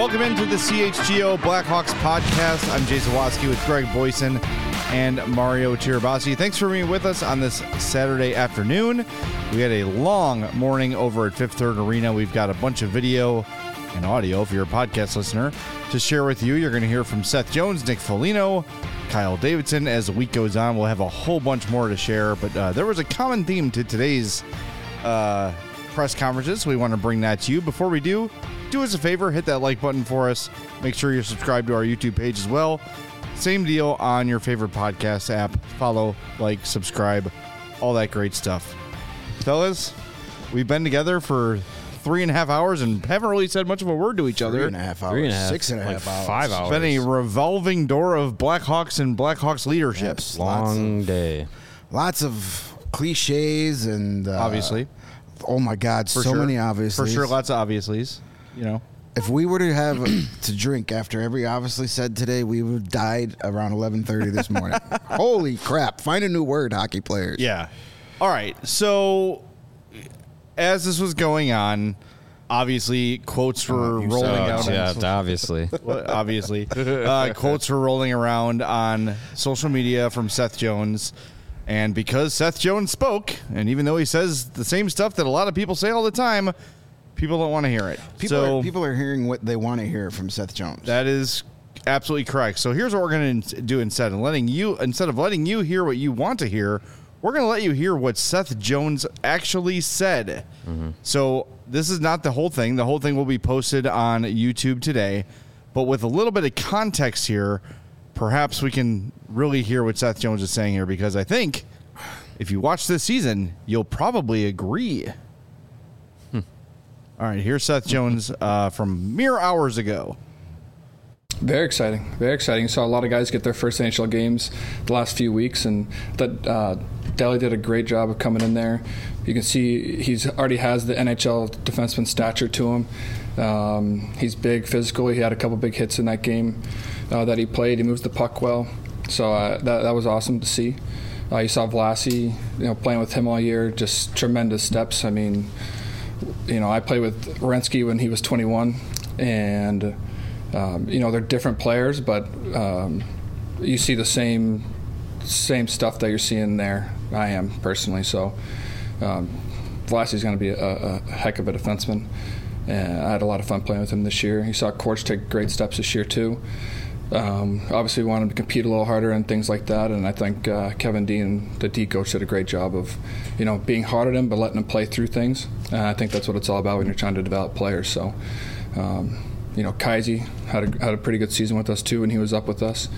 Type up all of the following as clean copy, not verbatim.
Welcome into the CHGO Blackhawks podcast. I'm Jason Watsky with Greg Boyson and Mario Tirabassi. Thanks for being with us on this Saturday afternoon. We had a long morning over at Fifth Third Arena. We've got a bunch of video and audio, if you're a podcast listener, to share with you. You're going to hear from Seth Jones, Nick Foligno, Kyle Davidson. As the week goes on, we'll have a whole bunch more to share. But there was a common theme to today's press conferences. We want to bring that to you. Before we do us a favor, hit that like button for us. Make sure you're subscribed to our YouTube page as well. Same deal on your favorite podcast app. Follow, like, subscribe, all that great stuff. Fellas, we've been together for 3.5 hours and haven't really said much of a word to each other. 3.5 hours. 6.5 hours. 5 hours. It's been a revolving door of Blackhawks and Blackhawks leadership. Yes, Long day. Lots of cliches and Obviously. Oh my God, For so sure. many obviously. For sure, lots of obviouslies. You know. If we were to have to drink after every obviously said today, we would have died around 11:30 this morning. Holy crap! Find a new word, hockey players. Yeah. All right. So, as this was going on, obviously quotes were rolling out. Yeah, obviously. Obviously, quotes were rolling around on social media from Seth Jones. And because Seth Jones spoke, and even though he says the same stuff that a lot of people say all the time, people don't want to hear it. People are hearing what they want to hear from Seth Jones. That is absolutely correct. So here's what we're going to do instead of letting you hear what you want to hear, we're going to let you hear what Seth Jones actually said. Mm-hmm. So this is not the whole thing. The whole thing will be posted on YouTube today. But with a little bit of context here, perhaps we can really hear what Seth Jones is saying here, because I think if you watch this season, you'll probably agree. All right, here's Seth Jones from mere hours ago. Very exciting. Very exciting. You saw a lot of guys get their first NHL games the last few weeks, and that Daly did a great job of coming in there. You can see he's already has the NHL defenseman stature to him. He's big, physical. He had a couple big hits in that game that he played. He moves the puck well. So that was awesome to see. You saw Vlasy, playing with him all year, just tremendous steps. I mean, I played with Werenski when he was 21, and they're different players, but you see the same stuff that you're seeing there. I am personally. So Vlasy's going to be a heck of a defenseman, and I had a lot of fun playing with him this year. You saw Korch take great steps this year too. Obviously, we want him to compete a little harder and things like that. And I think Kevin Dean, the D coach, did a great job of, being hard at him but letting him play through things. And I think that's what it's all about when you're trying to develop players. So, Kaisi had a pretty good season with us too when he was up with us.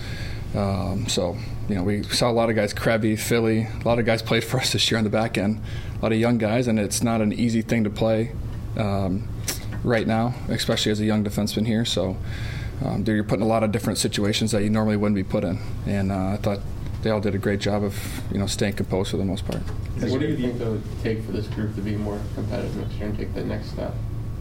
We saw a lot of guys, Krebby, Philly, a lot of guys played for us this year on the back end. A lot of young guys, and it's not an easy thing to play right now, especially as a young defenseman here. So. You're put in a lot of different situations that you normally wouldn't be put in, and I thought they all did a great job of staying composed for the most part. What do you think it would take for this group to be more competitive next year and take the next step?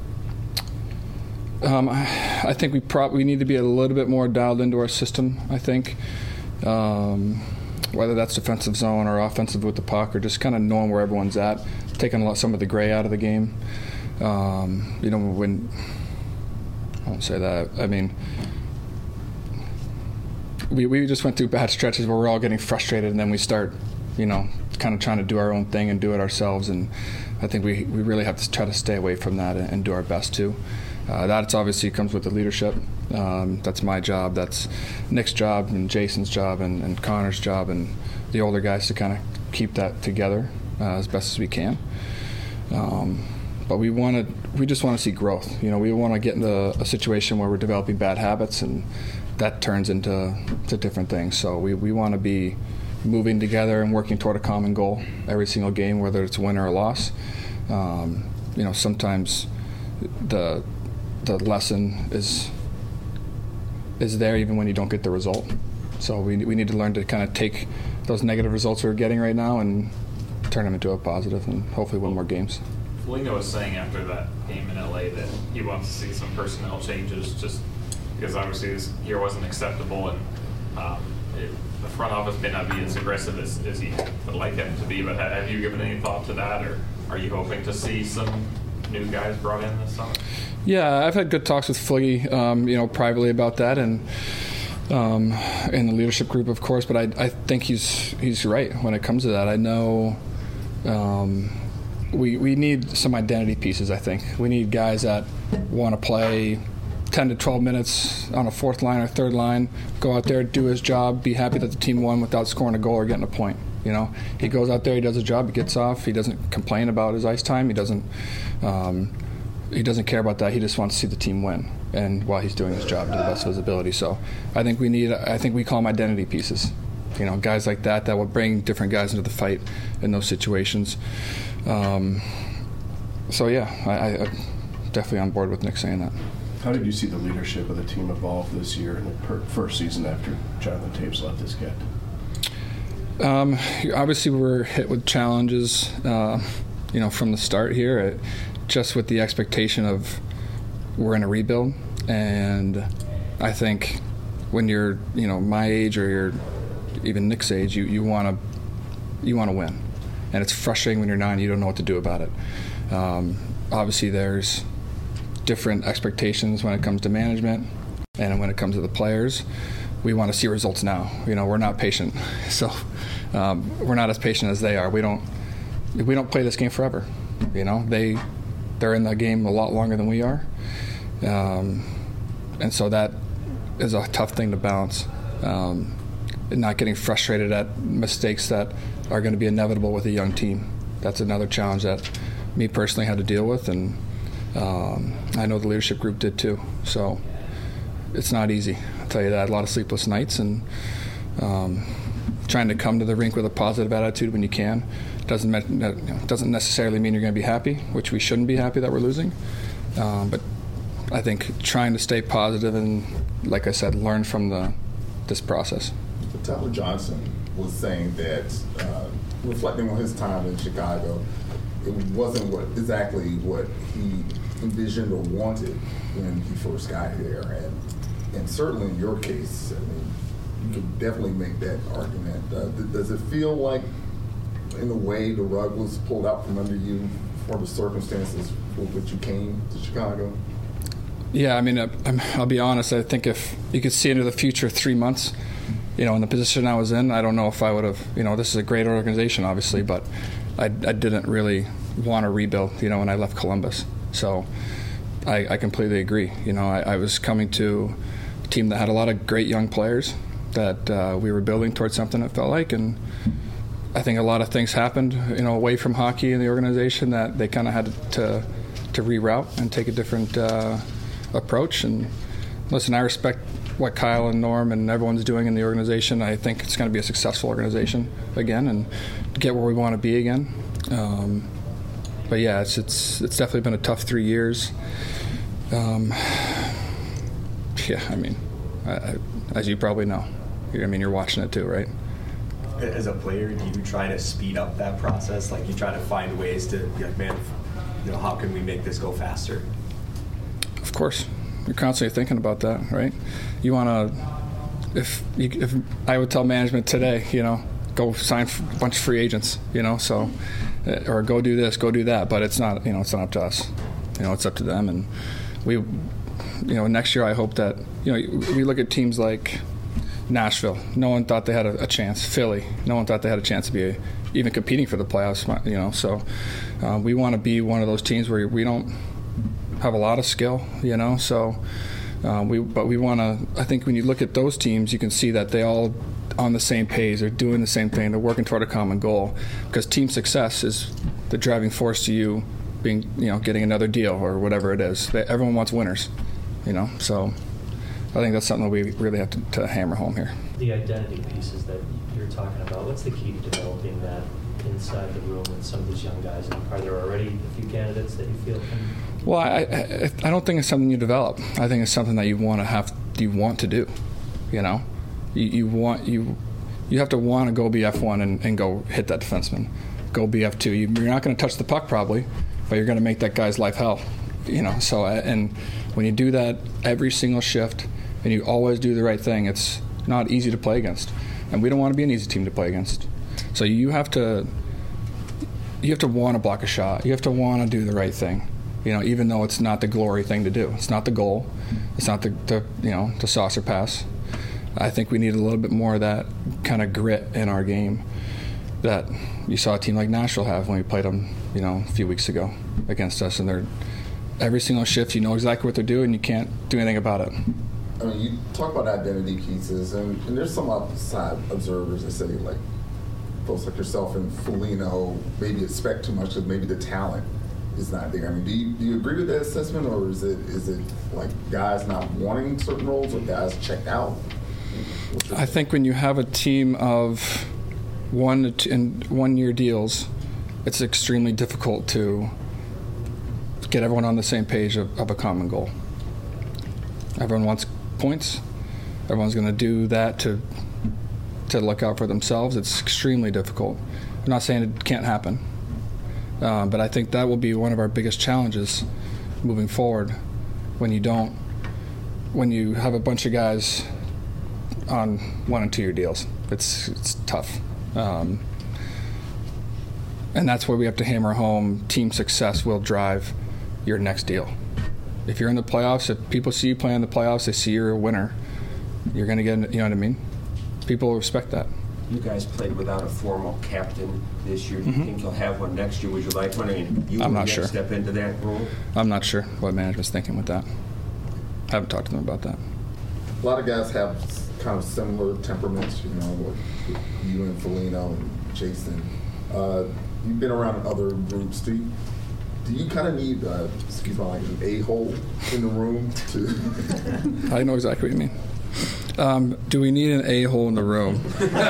I think we need to be a little bit more dialed into our system. I think whether that's defensive zone or offensive with the puck, or just kind of knowing where everyone's at, taking some of the gray out of the game. When I won't say that. I mean, we just went through bad stretches where we're all getting frustrated, and then we start, kind of trying to do our own thing and do it ourselves. And I think we really have to try to stay away from that and do our best too. That obviously comes with the leadership. That's my job. That's Nick's job and Jason's job and Connor's job and the older guys to kind of keep that together as best as we can. But we just want to see growth. We want to get into a situation where we're developing bad habits, and that turns into different things. So we want to be moving together and working toward a common goal every single game, whether it's a win or a loss. Sometimes the lesson is there even when you don't get the result. So we need to learn to kind of take those negative results we're getting right now and turn them into a positive and hopefully win more games. Foligno was saying after that game in LA that he wants to see some personnel changes, just because obviously this year wasn't acceptable, and the front office may not be as aggressive as he would like them to be. But have you given any thought to that, or are you hoping to see some new guys brought in this summer? Yeah, I've had good talks with Fliggy, privately about that, and in the leadership group, of course. But I think he's right when it comes to that. I know we need some identity pieces. I think we need guys that want to play 10 to 12 minutes on a fourth line or third line, go out there, do his job, be happy that the team won without scoring a goal or getting a point. He goes out there, he does his job, he gets off, he doesn't complain about his ice time, he doesn't care about that. He just wants to see the team win, and while he's doing his job to the best of his ability. So I think we call them identity pieces. Guys like that will bring different guys into the fight in those situations. So yeah, I'm definitely on board with Nick saying that. How did you see the leadership of the team evolve this year in the first season after Jonathan Toews left his kit? Obviously, we're hit with challenges, from the start here, just with the expectation of we're in a rebuild. And I think when you're, my age or you're even Nick's age, you want to win. And it's frustrating when you're not and you don't know what to do about it. Obviously, there's different expectations when it comes to management and when it comes to the players. We want to see results now. We're not patient, so we're not as patient as they are. We don't play this game forever. They're in the game a lot longer than we are, and so that is a tough thing to balance. Not getting frustrated at mistakes that are going to be inevitable with a young team. That's another challenge that me personally had to deal with, and I know the leadership group did too. So it's not easy. I'll tell you that. A lot of sleepless nights, and trying to come to the rink with a positive attitude when you can doesn't necessarily mean you're going to be happy, which we shouldn't be happy that we're losing. But I think trying to stay positive and, like I said, learn from this process. Tyler Johnson was saying that, reflecting on his time in Chicago, it wasn't exactly what he envisioned or wanted when he first got here. And certainly in your case, you could definitely make that argument. Does it feel like, in a way, the rug was pulled out from under you for the circumstances for which you came to Chicago? Yeah, I'll be honest. I think if you could see into the future 3 months, in the position I was in, I don't know if I would have, this is a great organization, obviously, but I didn't really want to rebuild, when I left Columbus. So I completely agree. I was coming to a team that had a lot of great young players that we were building towards something, it felt like, and I think a lot of things happened, away from hockey in the organization that they kind of had to reroute and take a different approach. And listen, I respect what Kyle and Norm and everyone's doing in the organization. I think it's going to be a successful organization again and get where we want to be again. But yeah, it's definitely been a tough 3 years. As you probably know, you're watching it too, right? As a player, do you try to speed up that process? Like, you try to find ways to be like, man, how can we make this go faster? Of course. You're constantly thinking about that, right? You want to, if I would tell management today, go sign a bunch of free agents, so, or go do this, go do that, but it's not, it's not up to us. It's up to them. And we, next year I hope that, we look at teams like Nashville. No one thought they had a chance. Philly. No one thought they had a chance to be even competing for the playoffs, so we want to be one of those teams where we don't have a lot of skill, so we want to. I think when you look at those teams, you can see that they all on the same page. They're doing the same thing. They're working toward a common goal, because team success is the driving force to you being, getting another deal or whatever it is. Everyone wants winners, so I think that's something that we really have to hammer home here. The identity pieces that you're talking about, what's the key to developing that inside the room with some of these young guys? Are there already a few candidates that you feel can? Well, I don't think it's something you develop. I think it's something that you want to do. You have to want to go be F1 and go hit that defenseman, go be F2. You're not going to touch the puck probably, but you're going to make that guy's life hell. So and when you do that every single shift and you always do the right thing, it's not easy to play against, and we don't want to be an easy team to play against. So you have to want to block a shot. You have to want to do the right thing. even though it's not the glory thing to do. It's not the goal. It's not the saucer pass. I think we need a little bit more of that kind of grit in our game that you saw a team like Nashville have when we played them, a few weeks ago against us. And they're every single shift, you know exactly what they're doing. You can't do anything about it. I mean, you talk about identity pieces, and there's some outside observers that say, like, folks like yourself and Foligno maybe expect too much because maybe the talent is not there. I mean, do you agree with that assessment, or is it like guys not wanting certain roles or guys checked out? I think when you have a team of 1 year deals, it's extremely difficult to get everyone on the same page of a common goal. Everyone wants points. Everyone's going to do that to look out for themselves. It's extremely difficult. I'm not saying it can't happen, but I think that will be one of our biggest challenges moving forward when you have a bunch of guys on 1 and 2 year deals. It's tough. And that's where we have to hammer home team success will drive your next deal. If you're in the playoffs, if people see you play in the playoffs, they see you're a winner, you're going to get, you know what I mean? People respect that. You guys played without a formal captain this year. Do you think you'll have one next year? Would you like one? I mean, I'm not sure. Step into that role? I'm not sure what management's thinking with that. I haven't talked to them about that. A lot of guys have kind of similar temperaments, like you and Foligno and Jason. You've been around other groups. Do you kind of need, excuse my language, an a-hole in the room to? I know exactly what you mean. Do we need an a-hole in the room?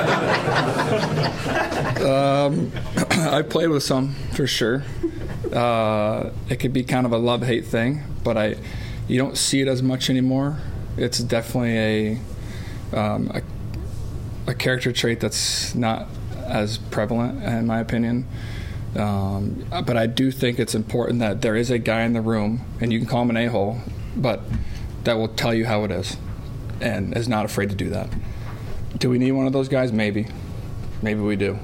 I played with some, for sure. It could be kind of a love-hate thing, but you don't see it as much anymore. It's definitely a character trait that's not as prevalent, in my opinion. But I do think it's important that there is a guy in the room, and you can call him an a-hole, but that will tell you how it is and is not afraid to do that. Do we need one of those guys? Maybe. Maybe we do.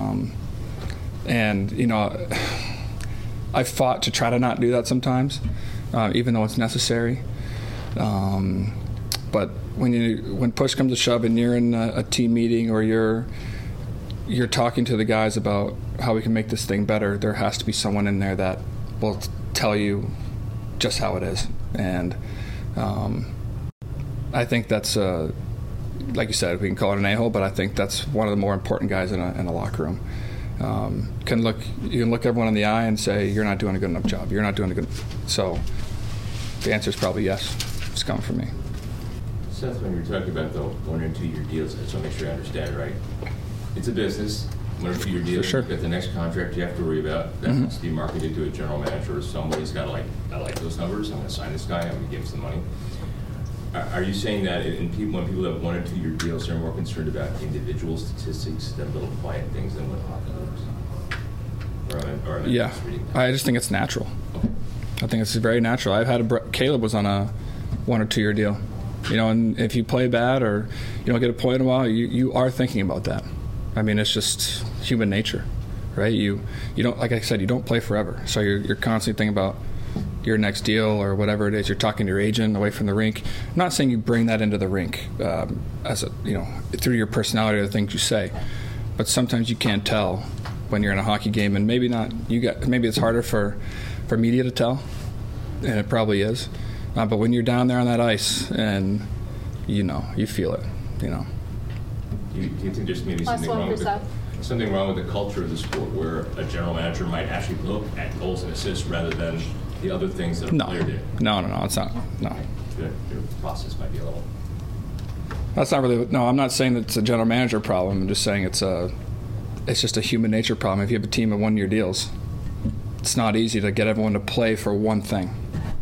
And, I've fought to try to not do that sometimes, even though it's necessary. But when push comes to shove and you're in a team meeting or you're talking to the guys about how we can make this thing better, there has to be someone in there that will tell you just how it is. And I think that's, like you said, we can call it an a-hole, but I think that's one of the more important guys in a locker room. You can look everyone in the eye and say, you're not doing a good enough job. You're not doing a good. So the answer is probably yes. It's coming from me. Seth, when you're talking about the 1 and 2 year deals, I just want to make sure I understand, right? It's a business. 1 or 2 year deal. Sure. You've got the next contract you have to worry about. That has to be marketed to a general manager or somebody's got to I like those numbers. I'm going to sign this guy. I'm going to give him some money. Are you saying that when people have 1 and 2 year deals, they're more concerned about individual statistics than little quiet things than what hockey looks? Or yeah, I just think it's natural. Okay. I think it's very natural. I've had Caleb was on a 1 or 2 year deal, and if you play bad or you don't get a point in a while, you are thinking about that. I mean, it's just human nature, right? You don't, like I said, you don't play forever, so you're constantly thinking about your next deal or whatever it is. You're talking to your agent away from the rink. I'm not saying you bring that into the rink as through your personality or the things you say, but sometimes you can't tell when you're in a hockey game, and maybe it's harder for media to tell, and it probably is. But when you're down there on that ice and you feel it, Do you think there's maybe something wrong with the culture of the sport where a general manager might actually look at goals and assists rather than the other things that a player did? No, it's not. No. Your process might be a little. That's not really. No, I'm not saying that it's a general manager problem. I'm just saying it's just a human nature problem. If you have a team of 1 year deals, it's not easy to get everyone to play for one thing.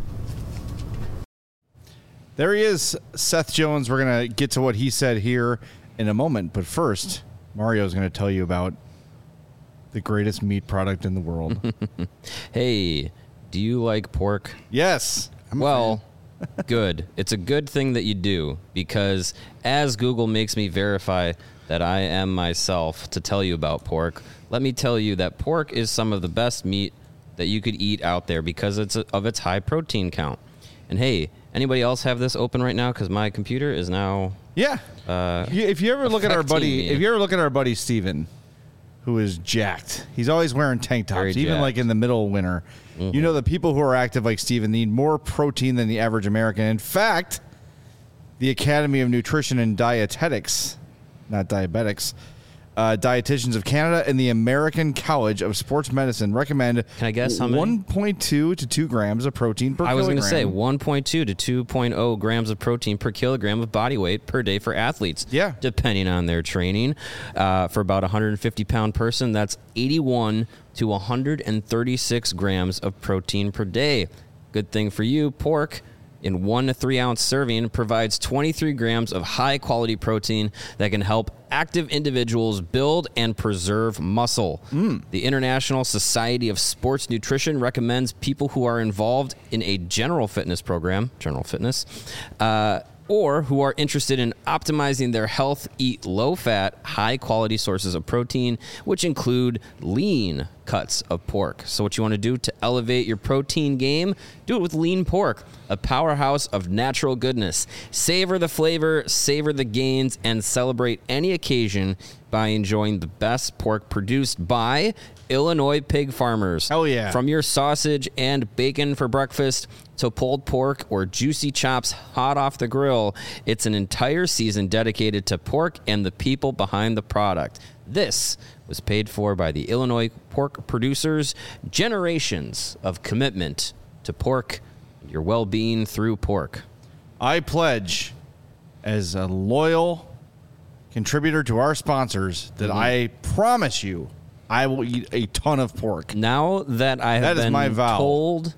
There he is, Seth Jones. We're going to get to what he said here in a moment. But first, Mario's going to tell you about the greatest meat product in the world. Hey, do you like pork? Yes. Well, good. It's a good thing that you do, because as Google makes me verify that I am myself to tell you about pork, let me tell you that pork is some of the best meat that you could eat out there because of its high protein count. And hey, anybody else have this open right now? Because my computer is now. Yeah. If you ever look at our buddy Steven, who is jacked, he's always wearing tank tops, Very even jacked. like in the middle of winter. Mhm. You know, the people who are active like Steven need more protein than the average American. In fact, the Academy of Nutrition and Dietetics, not diabetics, Dietitians of Canada and the American College of Sports Medicine recommend. Can I guess how many? 1.2 to 2 grams of protein per kilogram. I was going to say 1.2 to 2.0 grams of protein per kilogram of body weight per day for athletes. Yeah. Depending on their training. For about a 150-pound person, that's 81 to 136 grams of protein per day. Good thing for you, pork in 1 to 3 ounce serving provides 23 grams of high quality protein that can help active individuals build and preserve muscle. The International Society of Sports Nutrition recommends people who are involved in a general fitness program, or who are interested in optimizing their health, eat low-fat, high-quality sources of protein, which include lean cuts of pork. So what you want to do to elevate your protein game, do it with lean pork, a powerhouse of natural goodness. Savor the flavor, savor the gains, and celebrate any occasion by enjoying the best pork produced by Illinois pig farmers. Hell yeah. From your sausage and bacon for breakfast to pulled pork or juicy chops hot off the grill, it's an entire season dedicated to pork and the people behind the product. This was paid for by the Illinois pork producers. Generations of commitment to pork and your well-being through pork. I pledge, as a loyal contributor to our sponsors, that I promise you I will eat a ton of pork. Now that I have That is been my vow. told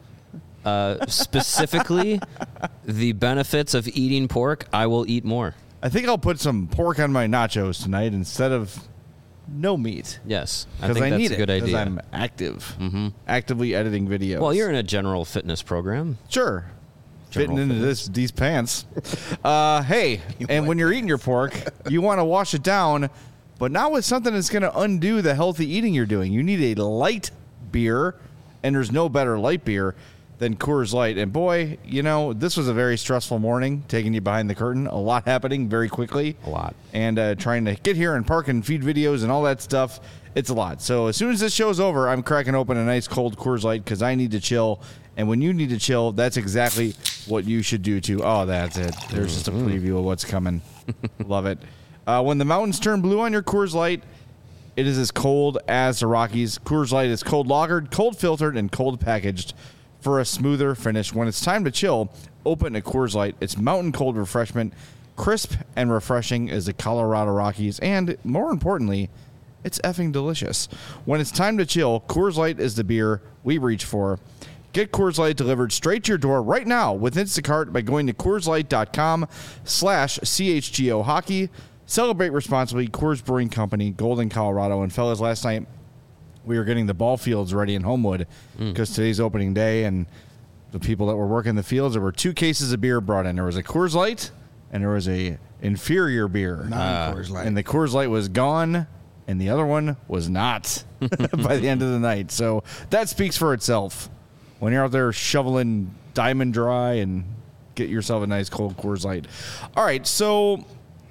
specifically the benefits of eating pork, I will eat more. I think I'll put some pork on my nachos tonight instead of no meat. Yes, I Because think I that's need a it. good Because idea. I'm active, actively editing videos. Well, you're in a general fitness program. Sure. Fitting General into these pants. Hey, and when you're eating your pork, you want to wash it down, but not with something that's going to undo the healthy eating you're doing. You need a light beer, and there's no better light beer than Coors Light. And boy, you know, this was a very stressful morning, taking you behind the curtain. A lot happening very quickly. A lot. And trying to get here and park and feed videos and all that stuff. It's a lot. So as soon as this show's over, I'm cracking open a nice cold Coors Light because I need to chill. And when you need to chill, that's exactly what you should do too. Oh, that's it. There's just a preview of what's coming. Love it. When the mountains turn blue on your Coors Light, it is as cold as the Rockies. Coors Light is cold lagered, cold filtered, and cold packaged for a smoother finish. When it's time to chill, open a Coors Light. It's mountain cold refreshment, crisp and refreshing as the Colorado Rockies, and more importantly, it's effing delicious. When it's time to chill, Coors Light is the beer we reach for. Get Coors Light delivered straight to your door right now with Instacart by going to CoorsLight.com/CHGO Hockey. Celebrate responsibly. Coors Brewing Company, Golden, Colorado. And fellas, last night we were getting the ball fields ready in Homewood because today's opening day, and the people that were working the fields, there were 2 cases of beer brought in. There was a Coors Light and there was a inferior beer. Non-Coors Light. And the Coors Light was gone and the other one was not by the end of the night. So that speaks for itself. When you're out there shoveling Diamond Dry and get yourself a nice cold Coors Light. All right, so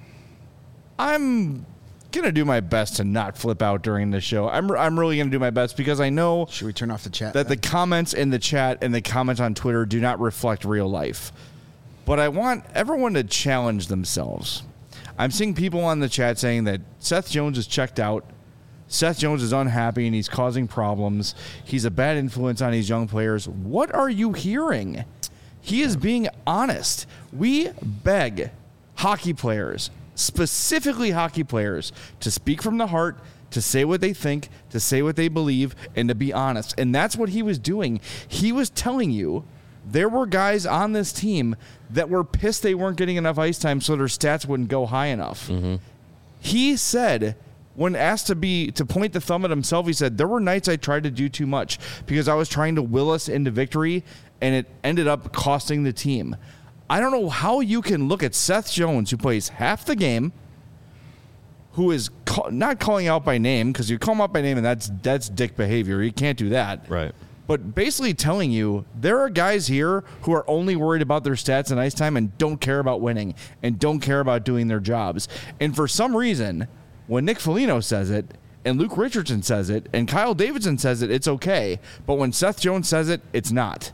I'm going to do my best to not flip out during the show. I'm really going to do my best because I know Should we turn off the chat? that the comments in the chat and the comments on Twitter do not reflect real life. But I want everyone to challenge themselves. I'm seeing people on the chat saying that Seth Jones is checked out. Seth Jones is unhappy and he's causing problems. He's a bad influence on these young players. What are you hearing? He is being honest. We beg hockey players, specifically hockey players, to speak from the heart, to say what they think, to say what they believe, and to be honest. And that's what he was doing. He was telling you there were guys on this team that were pissed they weren't getting enough ice time so their stats wouldn't go high enough. He said, when asked to point the thumb at himself, he said, there were nights I tried to do too much because I was trying to will us into victory, and it ended up costing the team. I don't know how you can look at Seth Jones, who plays half the game, who is not calling out by name, because you call him out by name, and that's dick behavior. You can't do that. Right. but basically telling you there are guys here who are only worried about their stats and ice time and don't care about winning and don't care about doing their jobs. And for some reason, when Nick Foligno says it and Luke Richardson says it and Kyle Davidson says it, it's okay. But when Seth Jones says it, it's not.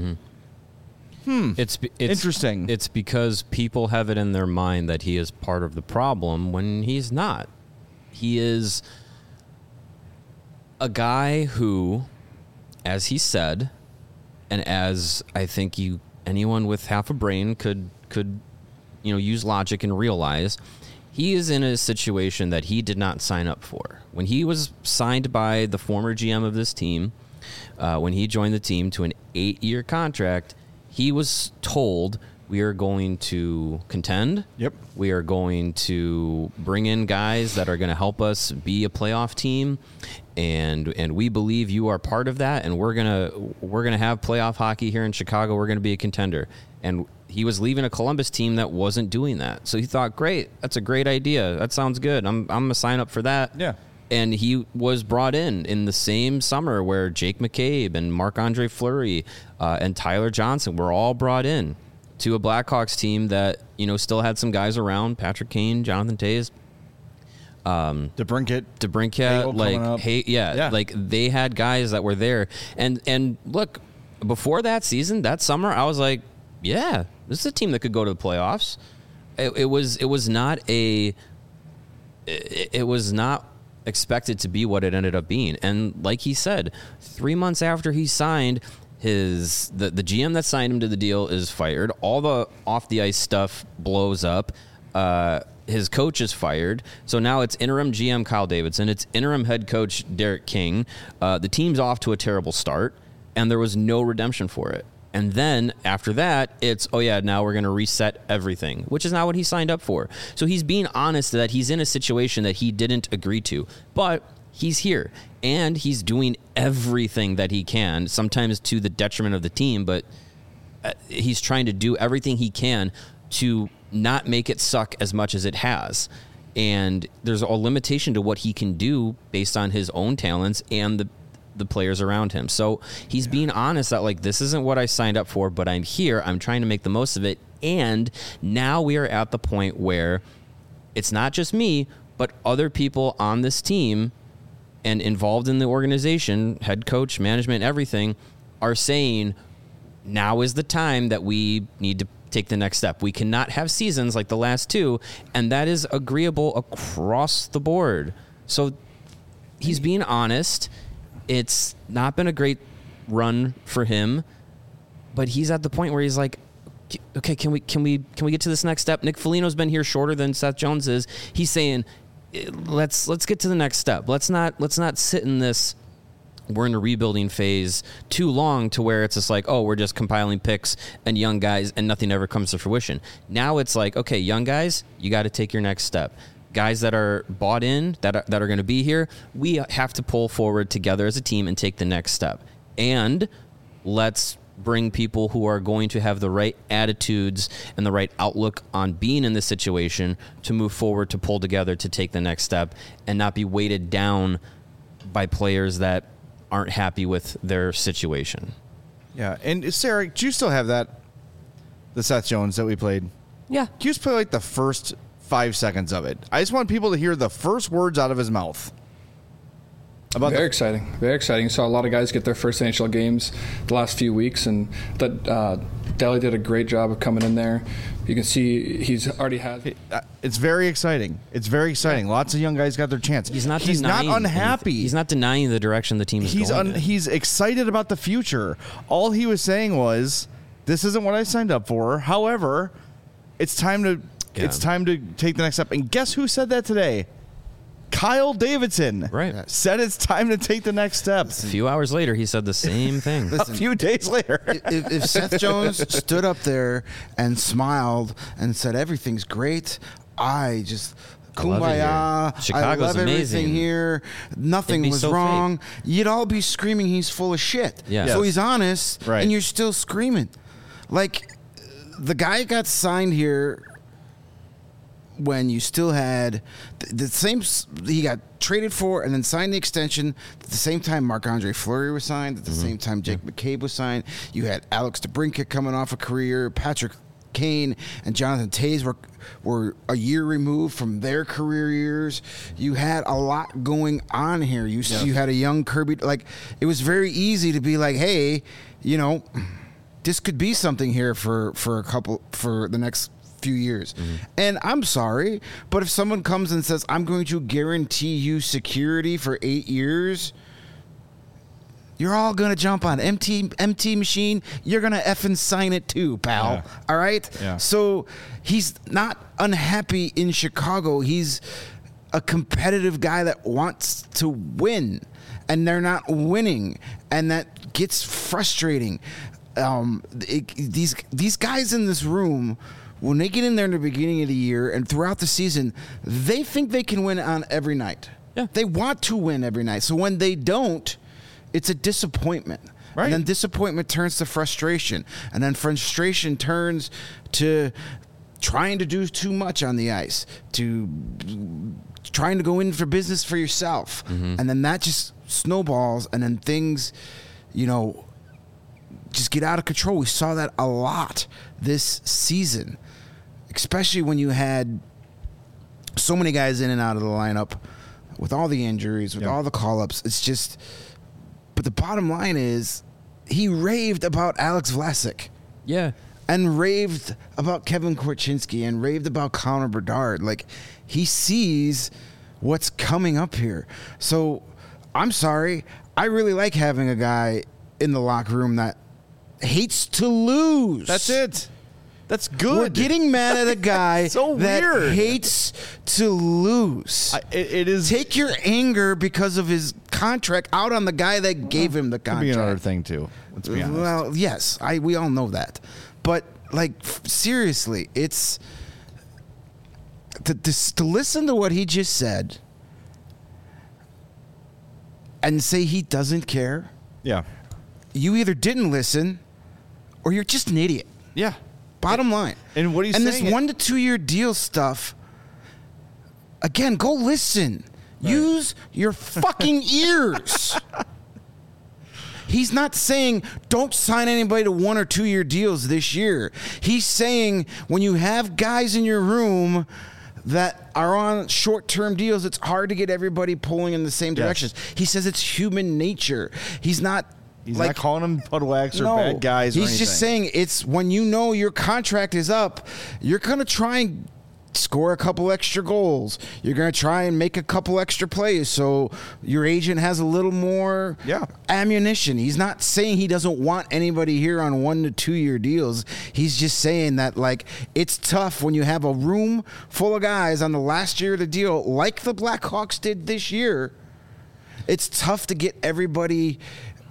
It's interesting. It's because people have it in their mind that he is part of the problem when he's not. He is a guy who, as he said, and as I think anyone with half a brain could use logic and realize, he is in a situation that he did not sign up for. When he was signed by the former GM of this team, when he joined the team to an 8-year contract, he was told, we are going to contend. Yep. We are going to bring in guys that are going to help us be a playoff team, and we believe you are part of that, and we're gonna have playoff hockey here in Chicago. We're going to be a contender. And he was leaving a Columbus team that wasn't doing that. So he thought, great, that's a great idea. That sounds good. I'm gonna sign up for that. Yeah. And he was brought in the same summer where Jake McCabe and Marc-Andre Fleury and Tyler Johnson were all brought in to a Blackhawks team that, still had some guys around, Patrick Kane, Jonathan Toews. DeBrincat, like they had guys that were there. And look, before that season, that summer, I was like, yeah, this is a team that could go to the playoffs. It was not expected to be what it ended up being. And like he said, 3 months after he signed, the GM that signed him to the deal is fired. All the off the ice stuff blows up. His coach is fired. So now it's interim GM Kyle Davidson. It's interim head coach Derek King. The team's off to a terrible start, and there was no redemption for it. And then after that, it's, now we're going to reset everything, which is not what he signed up for. So he's being honest that he's in a situation that he didn't agree to. But he's here, and he's doing everything that he can, sometimes to the detriment of the team, but he's trying to do everything he can to not make it suck as much as it has. And there's a limitation to what he can do based on his own talents and the players around him. So he's being honest that, like, this isn't what I signed up for, but I'm here. I'm trying to make the most of it. And now we are at the point where it's not just me, but other people on this team and involved in the organization, head coach, management, everything, are saying now is the time that we need to take the next step. We cannot have seasons like the last two, and that is agreeable across the board. So he's being honest. It's not been a great run for him, but he's at the point where he's like, okay, can we get to this next step? Nick Foligno's been here shorter than Seth Jones is. He's saying, let's get to the next step. Let's not sit in this, we're in a rebuilding phase too long to where it's just like, oh, we're just compiling picks and young guys and nothing ever comes to fruition. Now it's like, okay, young guys, you got to take your next step. Guys that are bought in, that are going to be here, we have to pull forward together as a team and take the next step. And let's bring people who are going to have the right attitudes and the right outlook on being in this situation to move forward, to pull together, to take the next step, and not be weighted down by players that aren't happy with their situation. Yeah, and Sarah, do you still have the Seth Jones that we played? Yeah. Can you just play like the first 5 seconds of it? I just want people to hear the first words out of his mouth. Very exciting. Very exciting. Saw a lot of guys get their first NHL games the last few weeks, and that Delhi did a great job of coming in there. You can see he's already had. It's very exciting. It's very exciting. Lots of young guys got their chance. He's not unhappy. He's not denying the direction the team is going. He's excited about the future. All he was saying was, "This isn't what I signed up for. However, it's time to take the next step." And guess who said that today? Kyle Davidson said it's time to take the next step. A few hours later, he said the same thing. Listen, a few days later. if Seth Jones stood up there and smiled and said, everything's great, I just... Kumbaya, Chicago's I love amazing. Everything here. Nothing was so wrong. fake. You'd all be screaming he's full of shit. Yeah. So Yes. he's honest, and you're still screaming. Like, the guy got signed here when you still had the same. He got traded for and then signed the extension at the same time. Marc-Andre Fleury was signed at the same time. Jake McCabe was signed. You had Alex DeBrincat coming off a career. Patrick Kane and Jonathan Toews were a year removed from their career years. You had a lot going on here. You had a young Kirby. Like, it was very easy to be like, hey, this could be something here for the next few years. And I'm sorry, but if someone comes and says, I'm going to guarantee you security for 8 years, you're all going to jump on MT machine. You're going to effing sign it too, pal. Yeah. All right? Yeah. So he's not unhappy in Chicago. He's a competitive guy that wants to win, and they're not winning, and that gets frustrating. These guys in this room, when they get in there in the beginning of the year and throughout the season, they think they can win on every night. Yeah. They want to win every night. So when they don't, it's a disappointment. Right. And then disappointment turns to frustration. And then frustration turns to trying to do too much on the ice, to trying to go in for business for yourself. And then that just snowballs, and then things, just get out of control. We saw that a lot this season, especially when you had so many guys in and out of the lineup with all the injuries, with all the call-ups. It's just, but the bottom line is he raved about Alex Vlasic. Yeah. And raved about Kevin Korchinski and raved about Connor Bedard. Like, he sees what's coming up here. So I'm sorry. I really like having a guy in the locker room that hates to lose. That's it. That's good. We're getting mad at a guy So that weird. hates to lose. It is. Take your anger because of his contract out on the guy that gave him the Could be contract. another thing too. Let's be honest. Well, yes, we all know that, but seriously, it's to listen to what he just said and say he doesn't care. Yeah. You either didn't listen, or you're just an idiot. Yeah. Bottom line. And what he's and saying this 1 to 2 year deal stuff. Again, go listen. Right. Use your fucking ears. He's not saying don't sign anybody to 1 or 2 year deals this year. He's saying when you have guys in your room that are on short-term deals, it's hard to get everybody pulling in the same directions. He says it's human nature. He's not calling them puddlewags or bad guys or anything. He's just saying it's when you know your contract is up, you're going to try and score a couple extra goals. You're going to try and make a couple extra plays so your agent has a little more ammunition. He's not saying he doesn't want anybody here on 1 to 2 year deals. He's just saying that it's tough when you have a room full of guys on the last year of the deal like the Blackhawks did this year. It's tough to get everybody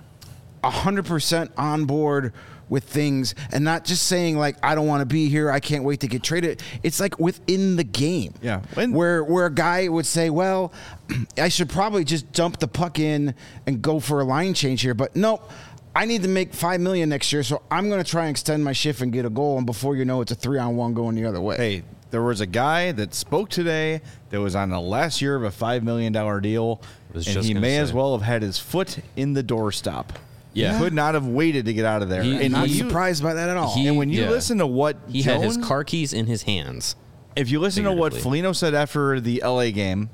100% on board with things and not just saying I don't want to be here, I can't wait to get traded. It's within the game. Yeah. Where a guy would say, well, I should probably just dump the puck in and go for a line change here, but nope, I need to make $5 million next year, so I'm going to try and extend my shift and get a goal, and before you know it's a 3-on-1 going the other way. Hey, there was a guy that spoke today that was on the last year of a $5 million deal, and he may as well have had his foot in the doorstop. Yeah. He could not have waited to get out of there. And not surprised by that at all. And when you listen to what he had his car keys in his hands. If you listen to what Foligno said after the LA game,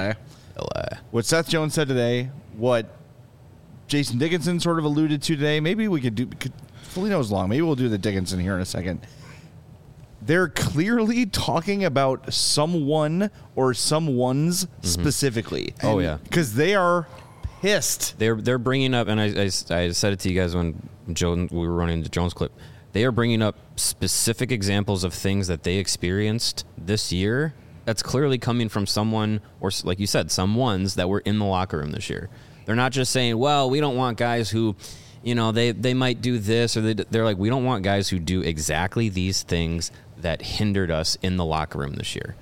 what Seth Jones said today, what Jason Dickinson sort of alluded to today, maybe we could do Foligno's long. Maybe we'll do the Dickinson here in a second. They're clearly talking about someone or someones specifically. Oh, yeah. Because they are pissed. They're bringing up, and I said it to you guys when we were running the Jones clip. They are bringing up specific examples of things that they experienced this year. That's clearly coming from someone, or like you said, some ones that were in the locker room this year. They're not just saying, well, we don't want guys who, they might do this, or they're like, we don't want guys who do exactly these things that hindered us in the locker room this year.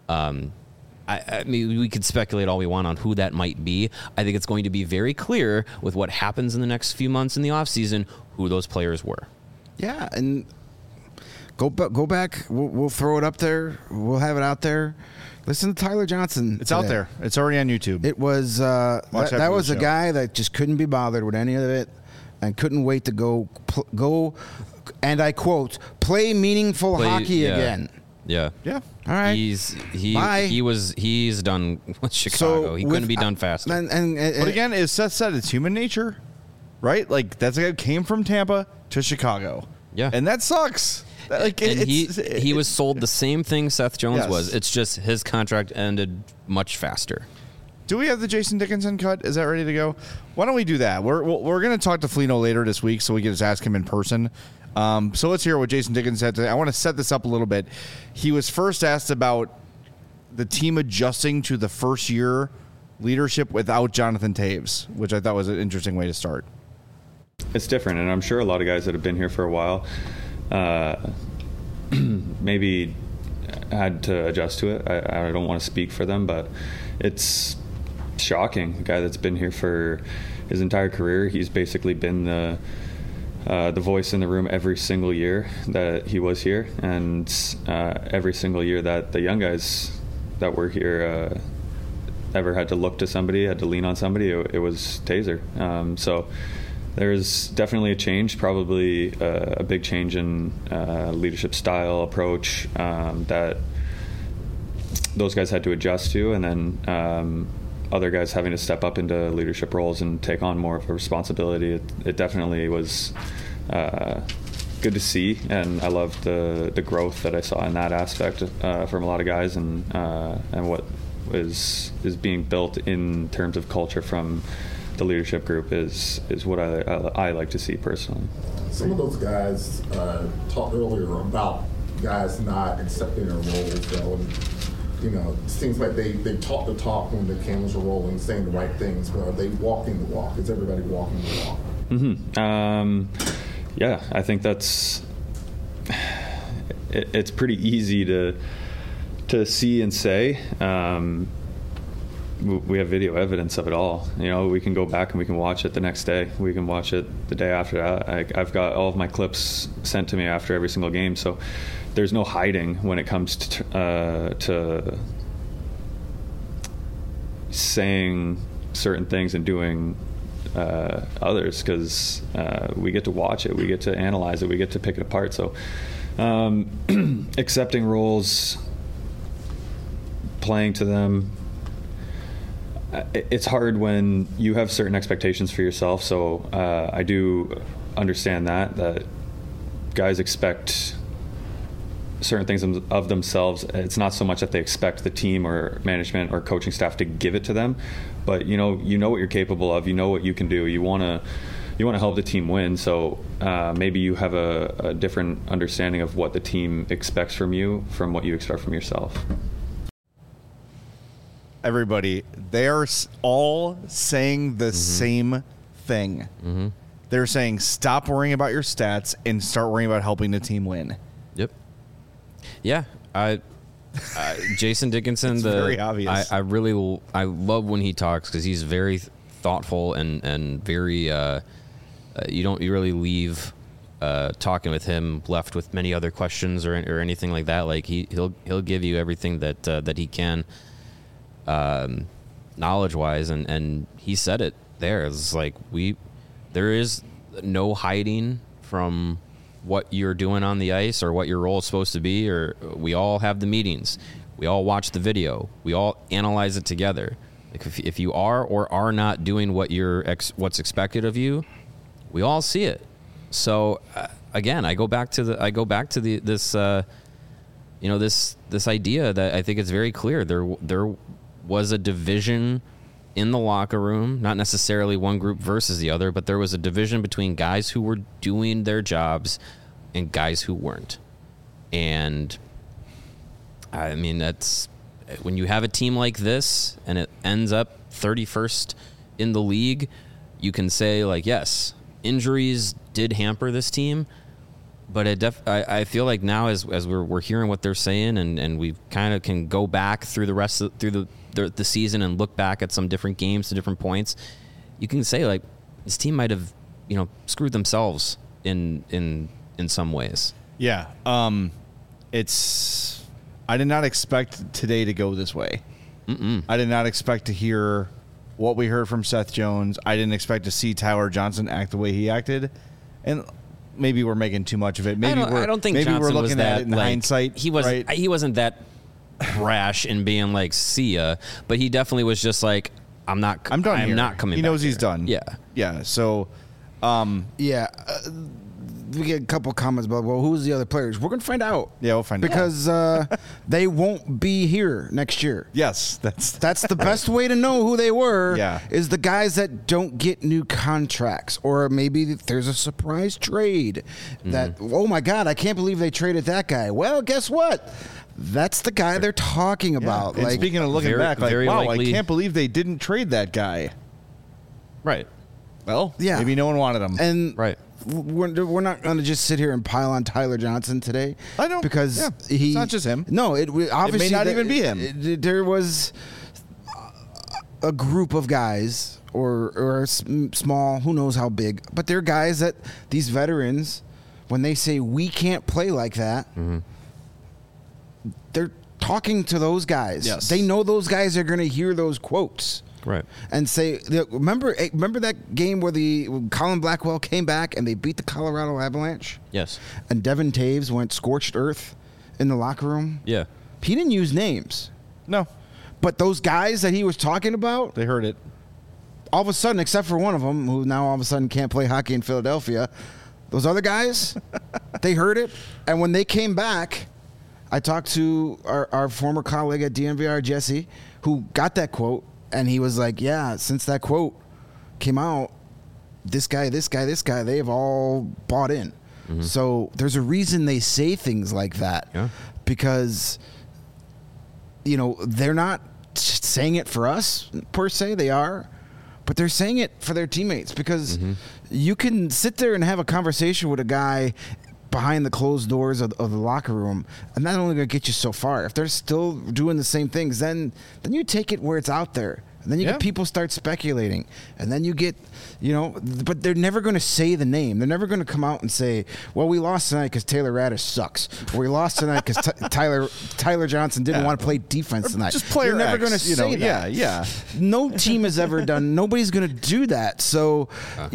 I mean, we could speculate all we want on who that might be. I think it's going to be very clear with what happens in the next few months in the offseason who those players were. Yeah, and Go back. We'll throw it up there. We'll have it out there. Listen to Tyler Johnson. It's out there. It's already on YouTube. It was that was a guy that just couldn't be bothered with any of it, and couldn't wait to go. And I quote, play meaningful hockey again. Yeah. Yeah. All right. He's done with Chicago. He couldn't be done faster. But again, as Seth said, it's human nature, right? Like that's a guy who came from Tampa to Chicago. Yeah. And that sucks. Like he was sold the same thing Seth Jones was. It's just his contract ended much faster. Do we have the Jason Dickinson cut? Is that ready to go? Why don't we do that? We're going to talk to Foligno later this week, so we can just ask him in person. So let's hear what Jason Dickinson said today. I want to set this up a little bit. He was first asked about the team adjusting to the first year leadership without Jonathan Toews, which I thought was an interesting way to start. It's different, and I'm sure a lot of guys that have been here for a while maybe had to adjust to it. I don't want to speak for them, but it's shocking. A guy that's been here for his entire career, he's basically been the voice in the room every single year that he was here, and every single year that the young guys that were here ever had to look to somebody, had to lean on somebody, it was Taser. So there's definitely a change, probably a big change in leadership style, approach that those guys had to adjust to, and then other guys having to step up into leadership roles and take on more of a responsibility. It definitely was good to see, and I loved the growth that I saw in that aspect from a lot of guys, and what is being built in terms of culture from the leadership group is what I like to see personally. Some of those guys talked earlier about guys not accepting their roles, though, and it seems like they talk the talk when the cameras are rolling, saying the right things, but are they walking the walk? Is everybody walking the walk? Mm-hmm. Yeah, I think that's it's pretty easy to see and say. We have video evidence of it all. We can go back and we can watch it the next day. We can watch it the day after that. I've got all of my clips sent to me after every single game, so there's no hiding when it comes to saying certain things and doing others, because we get to watch it, we get to analyze it, we get to pick it apart. So accepting roles, playing to them, it's hard when you have certain expectations for yourself. So I do understand that guys expect certain things of themselves. It's not so much that they expect the team or management or coaching staff to give it to them, but you know what you're capable of, you know what you can do, you want to help the team win. So maybe you have a different understanding of what the team expects from you from what you expect from yourself. Everybody, they are all saying the same thing. Mm-hmm. They're saying stop worrying about your stats and start worrying about helping the team win. Yep. Yeah, Jason Dickinson. Very obvious. I love when he talks, because he's very thoughtful and very. You don't really leave talking with him left with many other questions or anything like that. Like he'll give you everything that he can. Knowledge wise, and he said it there. It's like there is no hiding from what you're doing on the ice or what your role is supposed to be, or we all have the meetings, we all watch the video, we all analyze it together. Like if you are or are not doing what's expected of you, we all see it. So again, I go back to this idea that I think it's very clear. There was a division in the locker room, not necessarily one group versus the other, but there was a division between guys who were doing their jobs and guys who weren't. And I mean, that's when you have a team like this and it ends up 31st in the league, you can say, like, yes, injuries did hamper this team, but I feel like now as we're hearing what they're saying, and we kind of can go back through the season and look back at some different games to different points, you can say, like, this team might have screwed themselves in some ways. Yeah. I did not expect today to go this way. I did not expect to hear what we heard from Seth Jones. I didn't expect to see Tyler Johnson act the way he acted. And maybe we're making too much of it. Maybe I don't think maybe Johnson we're looking was that, at it in like, hindsight. He wasn't that brash in being like, see ya, but he definitely was just like, I'm done. I'm not coming. He back knows he's here. done. Yeah. So, we get a couple comments about, well, who's the other players? We're going to find out. Yeah, we'll find out. Because they won't be here next year. Yes, that's the best way to know who they were. Yeah. Is the guys that don't get new contracts, or maybe there's a surprise trade that, oh my God, I can't believe they traded that guy. Well, guess what? That's the guy they're talking about. And speaking of looking back, like, wow, I can't believe they didn't trade that guy. Right. Well, yeah, maybe no one wanted him. And right. We're not going to just sit here and pile on Tyler Johnson today. I don't, because it's not just him. No, obviously it may not even be him. There was a group of guys, or a small, who knows how big, but they're guys that these veterans, when they say we can't play like that, they're talking to those guys. Yes. They know those guys are going to hear those quotes. Right. And say, remember that game where Colin Blackwell came back and they beat the Colorado Avalanche? Yes. And Devin Taves went scorched earth in the locker room? Yeah. He didn't use names. No. But those guys that he was talking about, they heard it. All of a sudden, except for one of them, who now all of a sudden can't play hockey in Philadelphia, those other guys, they heard it. And when they came back, I talked to our former colleague at DNVR, Jesse, who got that quote. And he was like, yeah, since that quote came out, this guy, they have all bought in. So there's a reason they say things like that. Yeah. Because, they're not saying it for us, per se. They are. But they're saying it for their teammates. Because you can sit there and have a conversation with a guy behind the closed doors of the locker room, and that's only going to get you so far. If they're still doing the same things, then you take it where it's out there. And then you get people start speculating. And then you get, but they're never going to say the name. They're never going to come out and say, well, we lost tonight because Taylor Radish sucks. Or we lost tonight because Tyler Johnson didn't want to play defense tonight. Just player You're never X, going to say that. Yeah. No team has ever done. Nobody's going to do that. So,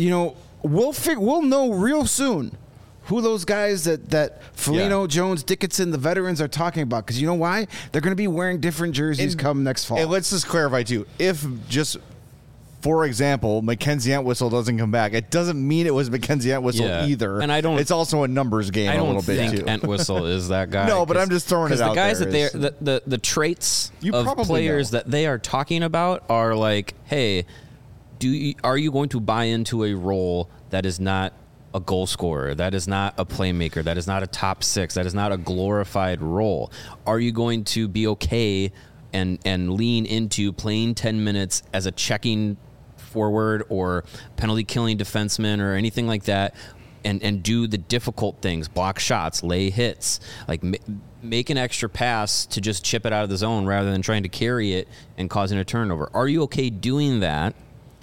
we'll know real soon who those guys that Foligno, Jones, Dickinson, the veterans are talking about. Because you know why? They're going to be wearing different jerseys come next fall. And let's just clarify, too. If just, for example, Mackenzie Entwistle doesn't come back, it doesn't mean it was Mackenzie Entwistle either. And I don't. It's also a numbers game a little bit, too. Entwistle is that guy. No, but I'm just throwing it out there. Because the guys that the traits of players that they are talking about are like, hey, are you going to buy into a role that is not a goal scorer, that is not a playmaker, that is not a top six, that is not a glorified role? Are you going to be okay and lean into playing 10 minutes as a checking forward or penalty killing defenseman or anything like that, and do the difficult things, block shots, lay hits, like make an extra pass to just chip it out of the zone rather than trying to carry it and causing a turnover? Are you okay doing that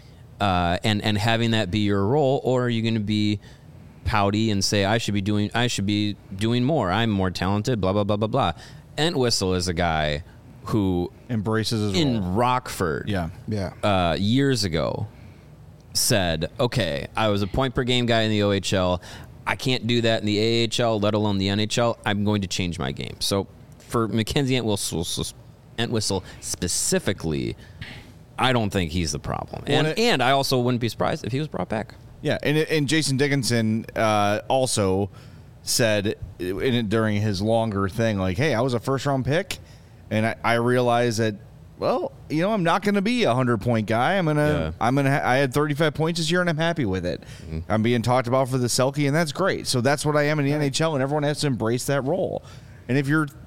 and having that be your role, or are you going to be pouty and say I should be doing more, I'm more talented, blah blah blah blah blah? Entwistle is a guy who embraces his in role. Rockford yeah years ago said, okay, I was a point per game guy in the OHL, I can't do that in the AHL, let alone the NHL. I'm going to change my game. So for Mackenzie Entwistle specifically, I don't think he's the problem. And I also wouldn't be surprised if he was brought back. Yeah, and Jason Dickinson also said during his longer thing, like, hey, I was a first-round pick, and I realized that, well, I'm not going to be a 100-point guy. I had 35 points this year, and I'm happy with it. I'm being talked about for the Selke, and that's great. So that's what I am in the NHL, and everyone has to embrace that role. And if you're,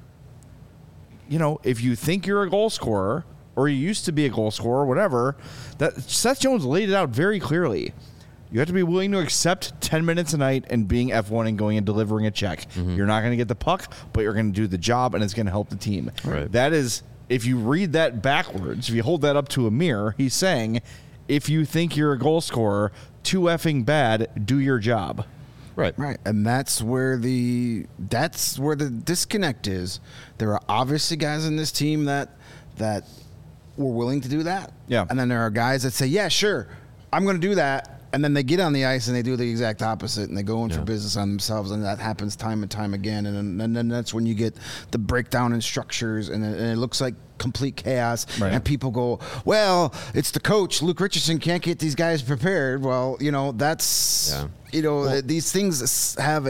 if you think you're a goal scorer, or you used to be a goal scorer, whatever, that Seth Jones laid it out very clearly. You have to be willing to accept 10 minutes a night and being F1 and going and delivering a check. You're not going to get the puck, but you're going to do the job, and it's going to help the team. Right. That is, if you read that backwards, if you hold that up to a mirror, he's saying, if you think you're a goal scorer, too effing bad, do your job. Right. And that's where the disconnect is. There are obviously guys in this team that were willing to do that. Yeah. And then there are guys that say, yeah, sure, I'm going to do that. And then they get on the ice and they do the exact opposite, and they go in for business on themselves, and that happens time and time again. And then that's when you get the breakdown in structures, and it looks like complete chaos. Right. And people go, well, it's the coach. Luke Richardson can't get these guys prepared. Well, that's these things have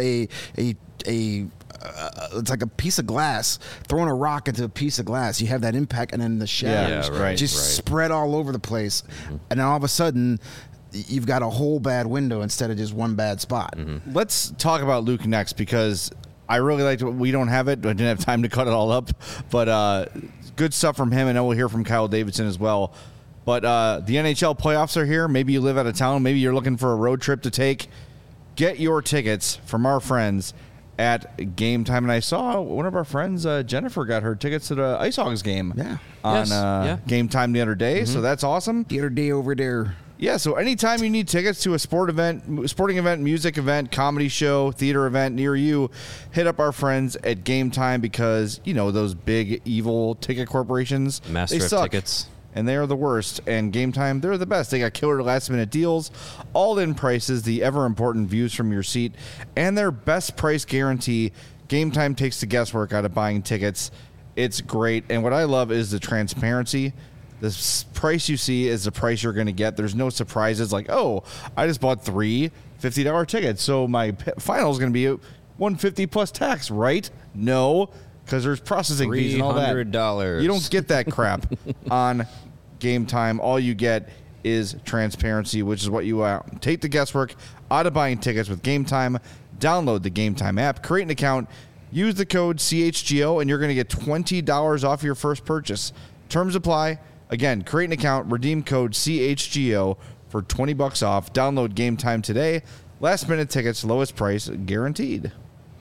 it's like a piece of glass, throwing a rock into a piece of glass. You have that impact, and then the shadows spread all over the place. And then all of a sudden, you've got a whole bad window instead of just one bad spot. Let's talk about Luke next, because I really liked it. We don't have it. I didn't have time to cut it all up. But good stuff from him. I know we'll hear from Kyle Davidson as well. But the NHL playoffs are here. Maybe you live out of town. Maybe you're looking for a road trip to take. Get your tickets from our friends at Game Time. And I saw one of our friends, Jennifer, got her tickets to the Ice Hogs game on Game Time the other day. So that's awesome. The other day over there. Yeah, so anytime you need tickets to a sporting event, music event, comedy show, theater event near you, hit up our friends at Game Time, because, those big, evil ticket corporations, Master they of suck. Tickets. And they are the worst. And Game Time, they're the best. They got killer last-minute deals, all-in prices, the ever-important views from your seat, and their best price guarantee. Game Time takes the guesswork out of buying tickets. It's great. And what I love is the transparency. The price you see is the price you're going to get. There's no surprises like, oh, I just bought three $50 tickets, so my final is going to be $150 plus tax, right? No, because there's processing fees and all that. $300. You don't get that crap on Game Time. All you get is transparency, which is what you want. Take the guesswork out of buying tickets with Game Time. Download the Game Time app, create an account, use the code CHGO, and you're going to get $20 off your first purchase. Terms apply. Again, create an account, redeem code CHGO for $20 off. Download Game Time today. Last minute tickets, lowest price guaranteed.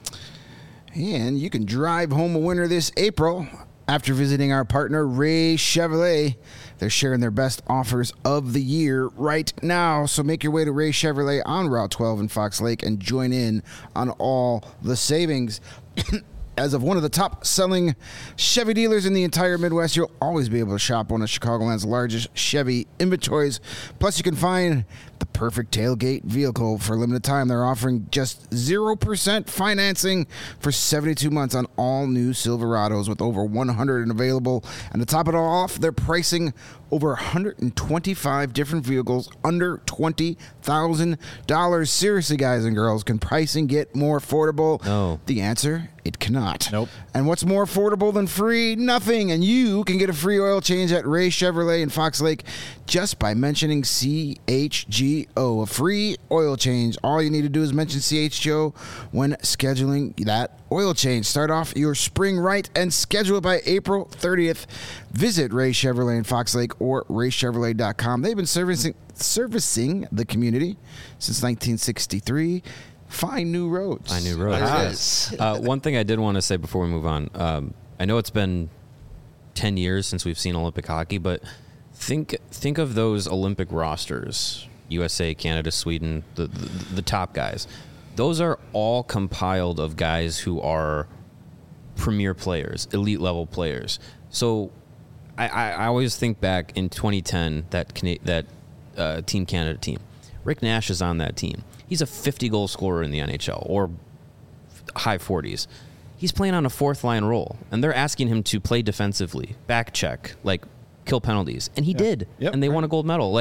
And you can drive home a winner this April after visiting our partner, Ray Chevrolet. They're sharing their best offers of the year right now. So make your way to Ray Chevrolet on Route 12 in Fox Lake and join in on all the savings. As of one of the top-selling Chevy dealers in the entire Midwest, you'll always be able to shop one of Chicagoland's largest Chevy inventories. Plus, you can find the perfect tailgate vehicle for a limited time. They're offering just 0% financing for 72 months on all new Silverados, with over 100 available. And to top it all off, they're pricing over 125 different vehicles under $20,000. Seriously, guys and girls, can pricing get more affordable? No. The answer, it cannot. Nope. And what's more affordable than free? Nothing. And you can get a free oil change at Ray Chevrolet in Fox Lake just by mentioning CHGO. A free oil change. All you need to do is mention CHGO when scheduling that oil change. Start off your spring right and schedule it by April 30th. Visit Ray Chevrolet in Fox Lake or raychevrolet.com. They've been servicing the community since 1963. Find new roads. Find new roads. One thing I did want to say before we move on. I know it's been 10 years since we've seen Olympic hockey, but think of those Olympic rosters: USA, Canada, Sweden, the top guys. Those are all compiled of guys who are premier players, elite level players. So I always think back in 2010, that Team Canada team. Rick Nash is on that team. He's a 50-goal scorer in the NHL, or high 40s. He's playing on a fourth-line role, and they're asking him to play defensively, back check, kill penalties, and he did, and they won a gold medal.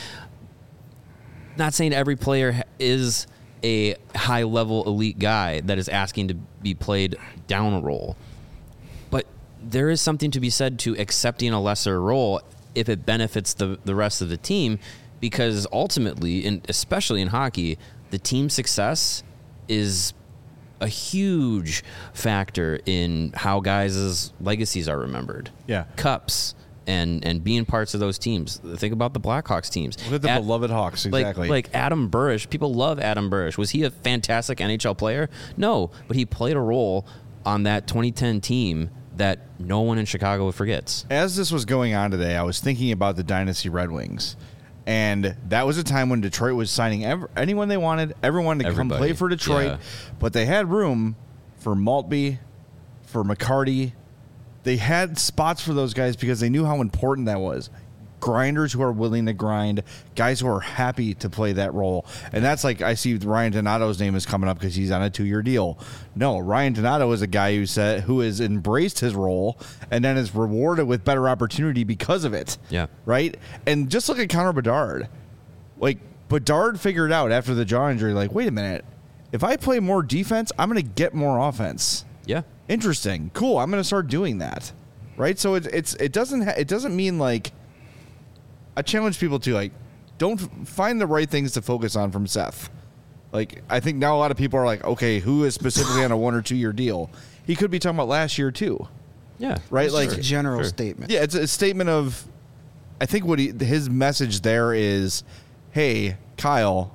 Not saying every player is a high-level elite guy that is asking to be played down a role, but there is something to be said to accepting a lesser role if it benefits the rest of the team, because ultimately, and especially in hockey, the team success is a huge factor in how guys' legacies are remembered. Yeah. Cups and being parts of those teams. Think about the Blackhawks teams. Look at the beloved Hawks, exactly. Like Adam Burish. People love Adam Burish. Was he a fantastic NHL player? No, but he played a role on that 2010 team that no one in Chicago forgets. As this was going on today, I was thinking about the Dynasty Red Wings. And that was a time when Detroit was signing anyone they wanted, everyone to come play for Detroit. Yeah. But they had room for Maltby, for McCarty. They had spots for those guys because they knew how important that was. Grinders who are willing to grind, guys who are happy to play that role. And that's like, I see Ryan Donato's name is coming up because he's on a 2-year deal. No, Ryan Donato is a guy who has embraced his role and then is rewarded with better opportunity because of it. Yeah. Right? And just look at Connor Bedard. Like, Bedard figured out after the jaw injury, like, wait a minute. If I play more defense, I'm going to get more offense. Yeah. Interesting. Cool. I'm going to start doing that. Right? So it doesn't mean like, I challenge people to, like, don't find the right things to focus on from Seth. Like, I think now a lot of people are like, okay, who is specifically on a 1 or 2 year deal? He could be talking about last year too. Yeah. Right? It's like a general statement. Yeah, it's a statement of, I think what his message there is, hey, Kyle,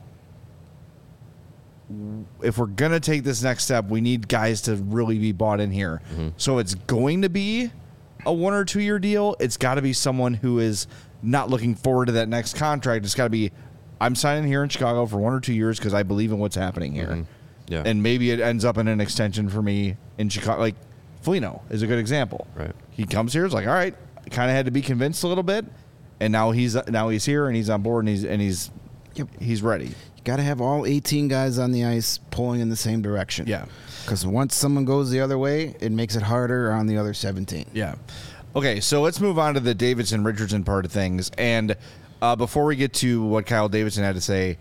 if we're going to take this next step, we need guys to really be bought in here. Mm-hmm. So it's going to be a 1 or 2 year deal. It's got to be someone who is not looking forward to that next contract. It's got to be, I'm signing here in Chicago for 1 or 2 years because I believe in what's happening here. Mm-hmm. Yeah. And maybe it ends up in an extension for me in Chicago. Like, Foligno is a good example. Right. He comes here, it's like, all right, kind of had to be convinced a little bit, and now he's here and he's on board and he's ready. You got to have all 18 guys on the ice pulling in the same direction. Yeah. Because once someone goes the other way, it makes it harder on the other 17. Yeah. Okay, so let's move on to the Davidson-Richardson part of things. And before we get to what Kyle Davidson had to say,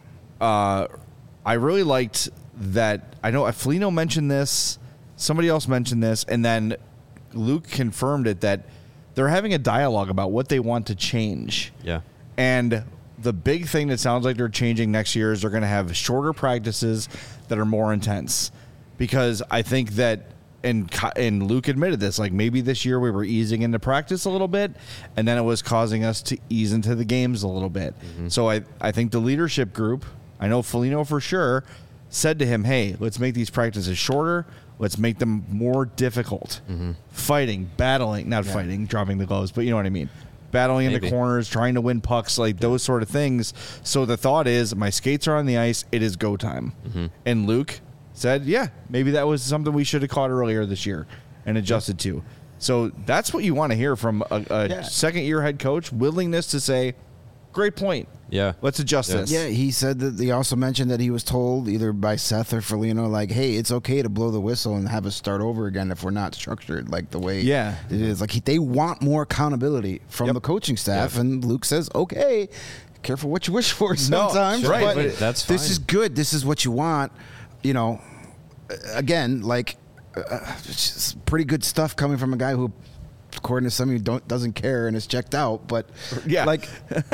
I really liked that. I know Foligno mentioned this, somebody else mentioned this, and then Luke confirmed it, that they're having a dialogue about what they want to change. Yeah. And the big thing that sounds like they're changing next year is they're going to have shorter practices that are more intense. Because I think that, and Luke admitted this, like maybe this year we were easing into practice a little bit, and then it was causing us to ease into the games a little bit. Mm-hmm. So I think the leadership group, I know Foligno for sure, said to him, hey, let's make these practices shorter. Let's make them more difficult. Mm-hmm. Fighting, battling, not fighting, dropping the gloves, but you know what I mean. Battling in the corners, trying to win pucks, like those sort of things. So the thought is, my skates are on the ice. It is go time. Mm-hmm. And Luke said, yeah, maybe that was something we should have caught earlier this year and adjusted to. So that's what you want to hear from a second-year head coach, willingness to say, great point. Yeah. Let's adjust this. Yeah, he said that he also mentioned that he was told either by Seth or Foligno, like, hey, it's okay to blow the whistle and have us start over again if we're not structured like the way it is. Like, they want more accountability from the coaching staff, and Luke says, okay, careful what you wish for sometimes. No, right, but that's fine. This is good. This is what you want. You know, again, like, it's pretty good stuff coming from a guy who, according to some of you, doesn't care and is checked out. But like,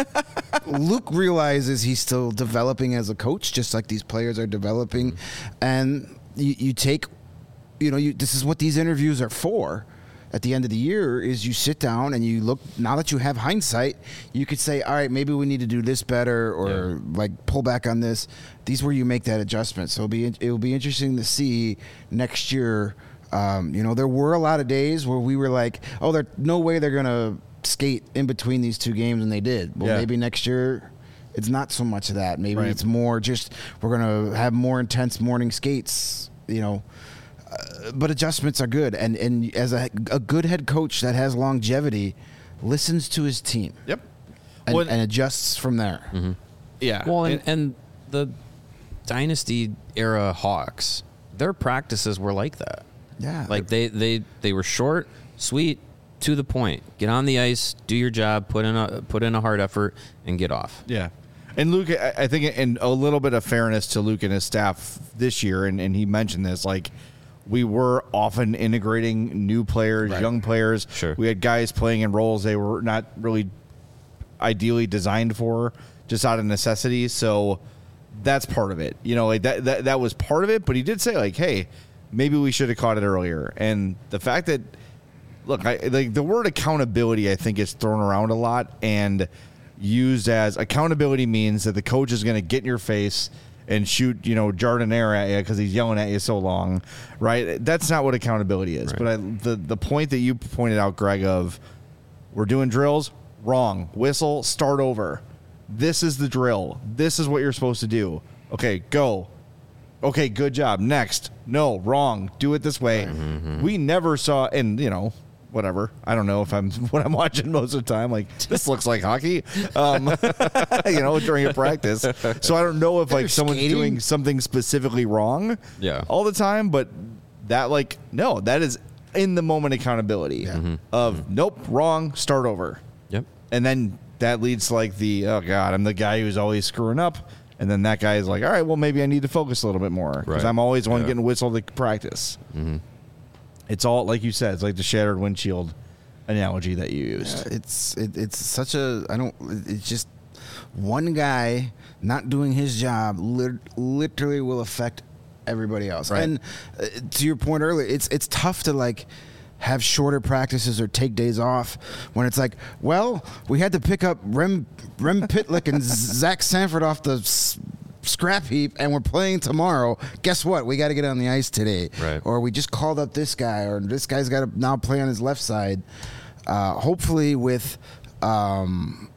Luke realizes he's still developing as a coach, just like these players are developing. Mm-hmm. And you take, this is what these interviews are for. At the end of the year, is you sit down and you look. Now that you have hindsight, you could say, all right, maybe we need to do this better, or like pull back on this. These where you make that adjustment. So it will be interesting to see next year. There were a lot of days where we were like, oh, there's no way they're going to skate in between these two games, and they did. Well, maybe next year it's not so much of that. Maybe it's more just we're going to have more intense morning skates, but adjustments are good. And as a good head coach that has longevity, listens to his team. Yep. And adjusts from there. Mm-hmm. Yeah. Well, and the Dynasty era Hawks, their practices were like that. Yeah. Like they were short, sweet, to the point. Get on the ice, do your job, put in a hard effort, and get off. Yeah. And Luke, I think, in a little bit of fairness to Luke and his staff this year, and he mentioned this, like, we were often integrating new players, young players. Sure. We had guys playing in roles they were not really ideally designed for, just out of necessity. So that's part of it. Like that was part of it. But he did say, like, hey, maybe we should have caught it earlier. And the fact that, look, the word accountability, I think, is thrown around a lot and used as accountability means that the coach is going to get in your face and shoot, Jardinier at you because he's yelling at you so long, right? That's not what accountability is. Right. But the point that you pointed out, Greg, of we're doing drills, wrong. Whistle, start over. This is the drill. This is what you're supposed to do. Okay, go. Okay, good job. Next. No, wrong. Do it this way. We never saw, and whatever. I don't know if what I'm watching most of the time. Like, this looks like hockey, during a practice. So I don't know if someone's doing something specifically wrong all the time, but that that is in the moment accountability of nope, wrong, start over. Yep. And then that leads to oh God, I'm the guy who's always screwing up. And then that guy is like, all right, well, maybe I need to focus a little bit more because I'm always the one getting whistled at practice. It's all, like you said, it's like the shattered windshield analogy that you used. It's such a, it's just one guy not doing his job literally will affect everybody else. Right. And to your point earlier, it's tough to have shorter practices or take days off when it's well, we had to pick up Rem Pitlick and Zach Sanford off the scrap heap and we're playing tomorrow. Guess what? We got to get on the ice today. Right. Or we just called up this guy, or this guy's got to now play on his left side. Hopefully with some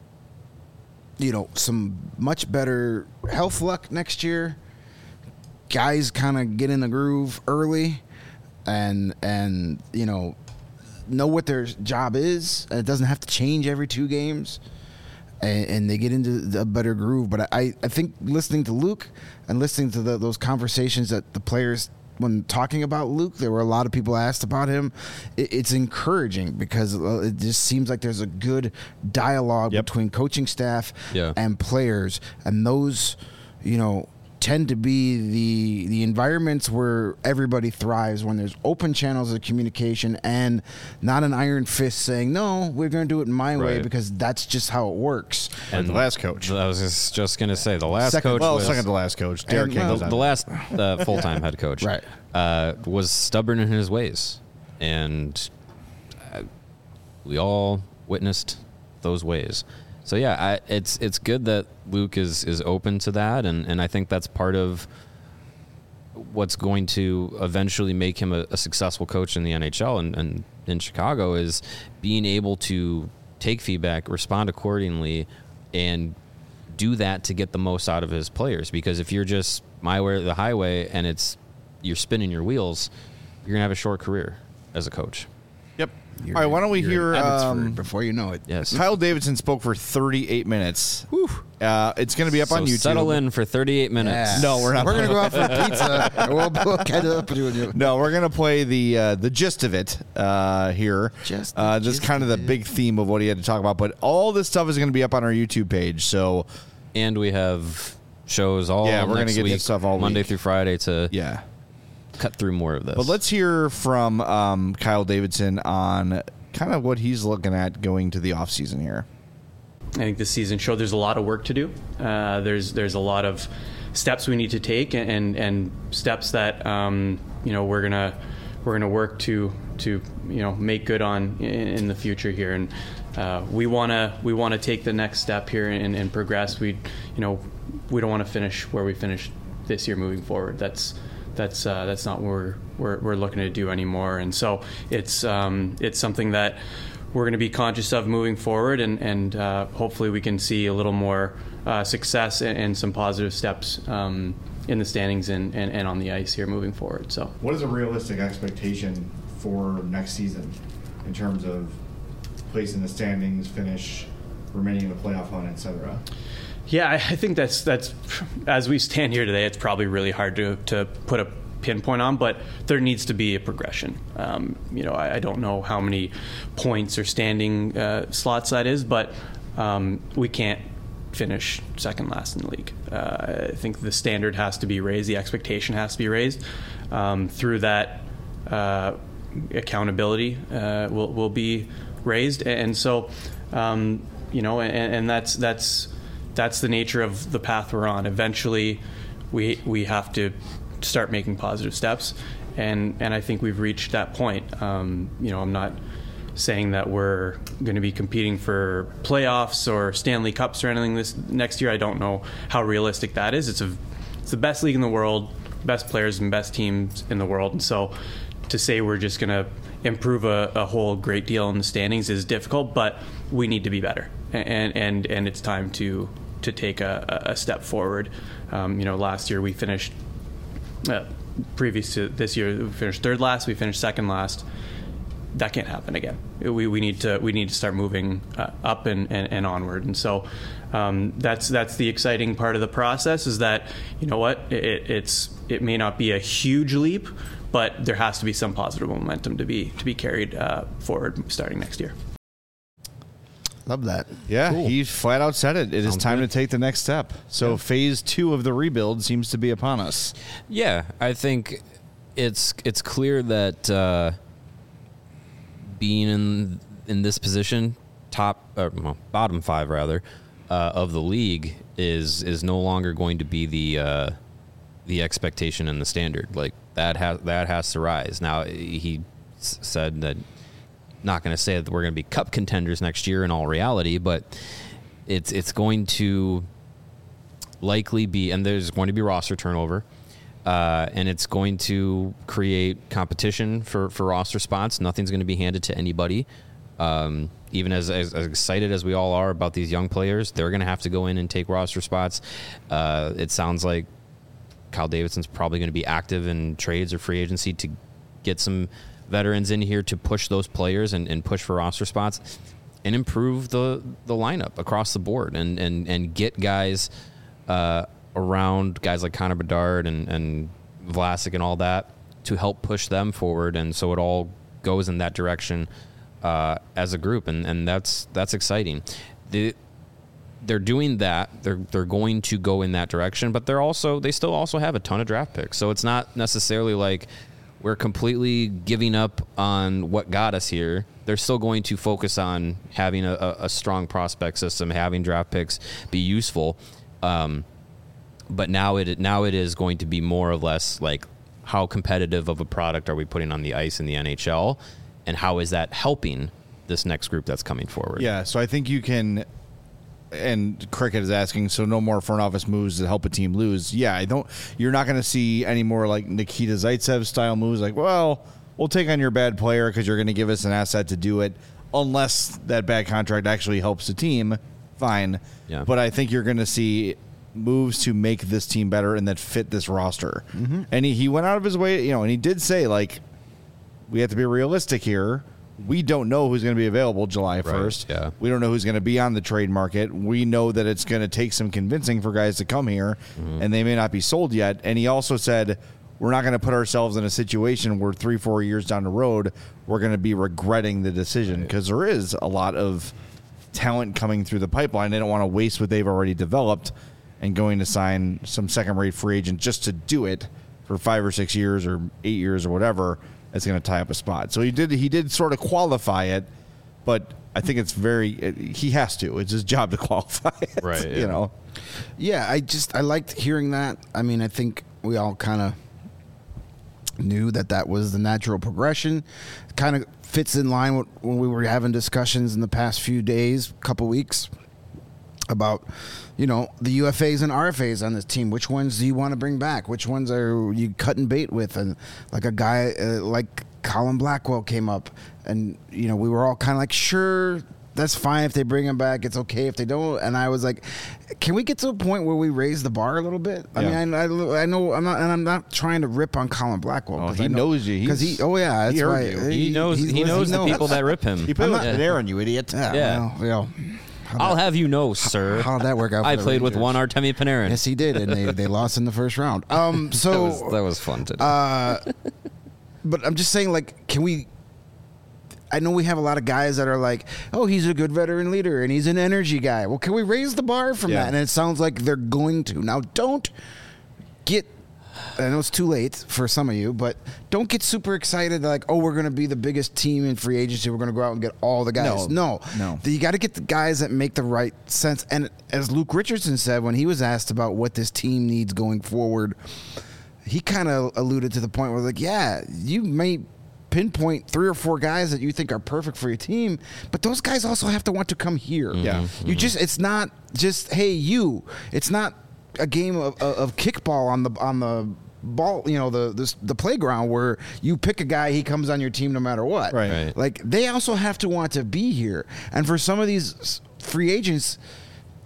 much better health luck next year, guys kind of get in the groove early and know what their job is, and it doesn't have to change every 2 games, and they get into a better groove. But I think listening to Luke and listening to those conversations that the players, when talking about Luke, there were a lot of people asked about him. It's encouraging because it just seems like there's a good dialogue between coaching staff and players, and those tend to be the environments where everybody thrives, when there's open channels of communication and not an iron fist saying, no, we're going to do it my way because that's just how it works. And the last coach. I was just going to say, the last second to last coach. Derek King. The last full-time head coach was stubborn in his ways. And we all witnessed those ways. So it's good that Luke is open to that, and I think that's part of what's going to eventually make him a successful coach in the NHL and in Chicago, is being able to take feedback, respond accordingly, and do that to get the most out of his players. Because if you're just my way or the highway and you're spinning your wheels, you're gonna have a short career as a coach. Yep. All right, why don't we hear before you know it? Yes. Kyle Davidson spoke for 38 minutes. It's going to be up on YouTube. Settle in for 38 minutes. Yeah. No, we're not. We're going to go out for pizza. And we'll catch up. No, we're going to play the gist of it here. Just kind of the big theme of what he had to talk about. But all this stuff is going to be up on our YouTube page. So, and we have shows all we're going to get week, this stuff all Monday week. Through Friday to cut through more of this. But let's hear from Kyle Davidson on kind of what he's looking at going to the offseason here. I think this season showed there's a lot of work to do. There's a lot of steps we need to take, and steps that we're gonna work to make good on in the future here. And we wanna take the next step here and progress. We don't want to finish where we finished this year moving forward. That's not what we're looking to do anymore. And so it's something that we're going to be conscious of moving forward, and hopefully we can see a little more success and some positive steps in the standings and on the ice here moving forward. So, what is a realistic expectation for next season in terms of place in the standings, finish, remaining in the playoff hunt, etc.? Yeah, I think that's as we stand here today, it's probably really hard to put a pinpoint on, but there needs to be a progression. I don't know how many points or standing slots that is, but we can't finish second last in the league. I think the standard has to be raised, the expectation has to be raised. Through that, accountability will be raised, and so and that's the nature of the path we're on. Eventually, we have to start making positive steps, and I think we've reached that point. I'm not saying that we're going to be competing for playoffs or Stanley Cups or anything this next year. I don't know how realistic that is. It's the best league in the world, best players and best teams in the world, and so to say we're just going to improve a whole great deal in the standings is difficult, but we need to be better, and it's time to take a step forward. Last year we finished, previous to this year, we finished third last, we finished second last. That can't happen again. We need to start moving up and onward. And so that's the exciting part of the process, is that, you know what, it may not be a huge leap, but there has to be some positive momentum to be carried forward starting next year. Love that. Yeah, Cool. He flat out said it. It is time to take the next step. So phase 2 of the rebuild seems to be upon us. Yeah, I think it's clear that being in this position, bottom 5 rather, of the league is no longer going to be the expectation and the standard. Like that has to rise. Now he said that, not going to say that we're going to be cup contenders next year in all reality, but it's going to likely be, and there's going to be roster turnover, and it's going to create competition for roster spots. Nothing's going to be handed to anybody. Even as excited as we all are about these young players, they're going to have to go in and take roster spots. It sounds like Kyle Davidson's probably going to be active in trades or free agency to get some veterans in here to push those players and push for roster spots and improve the lineup across the board and get guys around guys like Connor Bedard and Vlasic and all that to help push them forward. And so it all goes in that direction as a group. And that's exciting. They're doing that. They're going to go in that direction, but they still also have a ton of draft picks. So it's not necessarily like we're completely giving up on what got us here. They're still going to focus on having a strong prospect system, having draft picks be useful. But now it is going to be more or less like, how competitive of a product are we putting on the ice in the NHL, and how is that helping this next group that's coming forward? Yeah, so I think you can. And Cricket is asking, so no more front office moves to help a team lose. Yeah, you're not going to see any more like Nikita Zaitsev style moves. Like, well, we'll take on your bad player because you're going to give us an asset to do it. Unless that bad contract actually helps the team, fine. Yeah. But I think you're going to see moves to make this team better and that fit this roster. Mm-hmm. And he went out of his way, and he did say, like, we have to be realistic here. We don't know who's going to be available July 1st. Right, yeah. We don't know who's going to be on the trade market. We know that it's going to take some convincing for guys to come here, and they may not be sold yet. And he also said, we're not going to put ourselves in a situation where 3-4 years down the road, we're going to be regretting the decision, because there is a lot of talent coming through the pipeline. They don't want to waste what they've already developed and going to sign some second-rate free agent just to do it for 5 or 6 years or 8 years or whatever. It's going to tie up a spot. So he did sort of qualify it, but I think it's he has to. It's his job to qualify it. Right. Yeah. Yeah, I liked hearing that. I mean, I think we all kind of knew that was the natural progression. Kind of fits in line with when we were having discussions in the past few days, couple weeks, about the UFAs and RFAs on this team. Which ones do you want to bring back? Which ones are you cutting bait with? And like a guy like Colin Blackwell came up, and we were all kind of like, sure, that's fine if they bring him back. It's okay if they don't. And I was like, can we get to a point where we raise the bar a little bit? I mean, I know I'm not trying to rip on Colin Blackwell. Oh, he knows you. Because that's right. He knows the people that rip him. He put it there on you, idiot. Yeah. Well, I'll have you know, sir. How'd that work out? I played with one Artemi Panarin. Yes, he did, and they lost in the first round. So that was fun to do. But I'm just saying, like, can we? I know we have a lot of guys that are like, oh, he's a good veteran leader and he's an energy guy. Well, can we raise the bar from that? And it sounds like they're going to. Now, don't get. I know it's too late for some of you, but don't get super excited like, oh, we're going to be the biggest team in free agency. We're going to go out and get all the guys. No. You got to get the guys that make the right sense. And as Luke Richardson said when he was asked about what this team needs going forward, he kind of alluded to the point where, like, yeah, you may pinpoint 3 or 4 guys that you think are perfect for your team, but those guys also have to want to come here. Yeah. You just, it's not just, hey, it's not a game of kickball on the ball, the playground where you pick a guy, he comes on your team no matter what. Right. Like, they also have to want to be here. And for some of these free agents,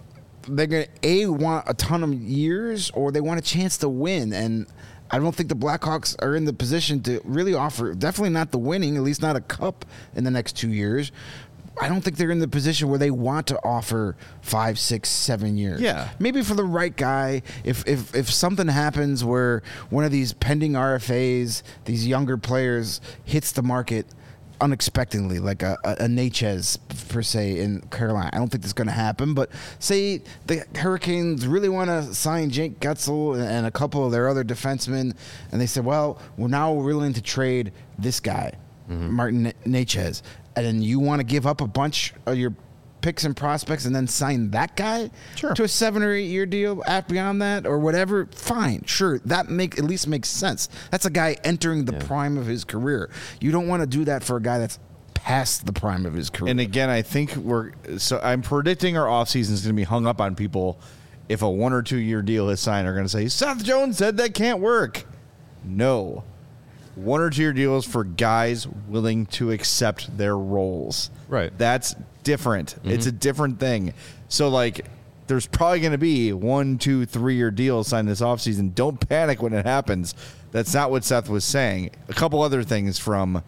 they're going to want a ton of years, or they want a chance to win. And I don't think the Blackhawks are in the position to really offer, definitely not the winning, at least not a cup in the next 2 years. I don't think they're in the position where they want to offer 5, 6, 7 years. Yeah. Maybe for the right guy, if something happens where one of these pending RFAs, these younger players, hits the market unexpectedly, like a Natchez per se in Carolina. I don't think that's going to happen, but say the Hurricanes really want to sign Jake Gutzel and a couple of their other defensemen, and they said, well, we're now willing to trade this guy, Martin Natchez, and then you want to give up a bunch of your picks and prospects and then sign that guy to a 7 or 8 year deal beyond that or whatever, fine, sure, that at least makes sense. That's a guy entering the prime of his career. You don't want to do that for a guy that's past the prime of his career. And again, I think I'm predicting our offseason is going to be hung up on people if a 1 or 2 year deal is signed are going to say, Seth Jones said that can't work. No. 1 or 2 year deals for guys willing to accept their roles. Right. That's different. It's a different thing. So, like, there's probably going to be 1, 2, 3 year deals signed this offseason. Don't panic when it happens. That's not what Seth was saying. A couple other things from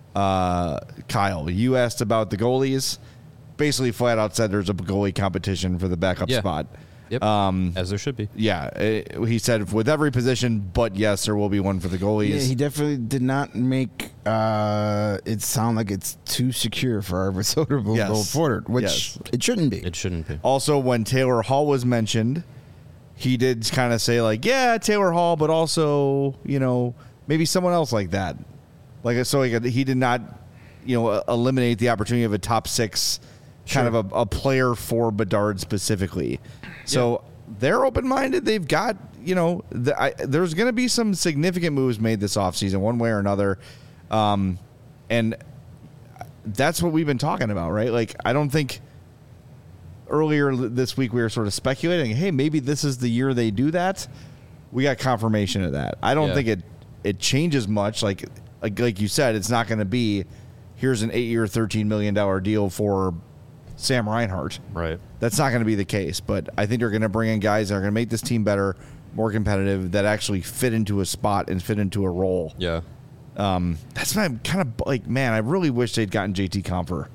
Kyle. You asked about the goalies. Basically, flat out said there's a goalie competition for the backup spot. Yep. As there should be. Yeah. He said with every position, but yes, there will be one for the goalies. Yeah, he definitely did not make it sound like it's too secure for Arvid Soderblom Porter, which it shouldn't be. It shouldn't be. Also, when Taylor Hall was mentioned, he did kind of say, like, yeah, Taylor Hall, but also, maybe someone else like that. He did not, eliminate the opportunity of a top 6 kind of a player for Bedard specifically. So they're open-minded. They've got, there's going to be some significant moves made this offseason one way or another. And that's what we've been talking about, right? Like, I don't think earlier this week we were sort of speculating, hey, maybe this is the year they do that. We got confirmation of that. I don't think it changes much. Like you said, it's not going to be, here's an 8-year, $13 million deal for Sam Reinhart. Right. That's not going to be the case, but I think they're going to bring in guys that are going to make this team better, more competitive, that actually fit into a spot and fit into a role. Yeah. That's why I'm kind of like, man, I really wish they'd gotten JT Compher.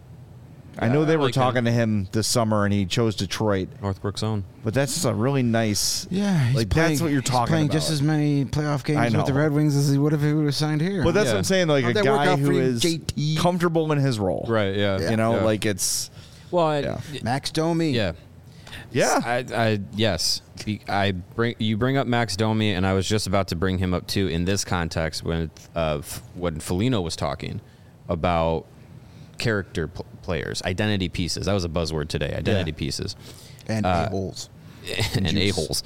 I know they were talking to him this summer, and he chose Detroit. Northbrook's own. But that's just a really nice... Yeah, that's what you're talking playing about. Just as many playoff games with the Red Wings as he would if he would have signed here. But that's what I'm saying, like a guy who is comfortable in his role. Right, yeah. Like it's... Well, Max Domi. Yeah. Yeah. Yes. You bring up Max Domi, and I was just about to bring him up too in this context when Foligno was talking about character players, identity pieces. That was a buzzword today. Identity pieces, and a-holes, and a-holes.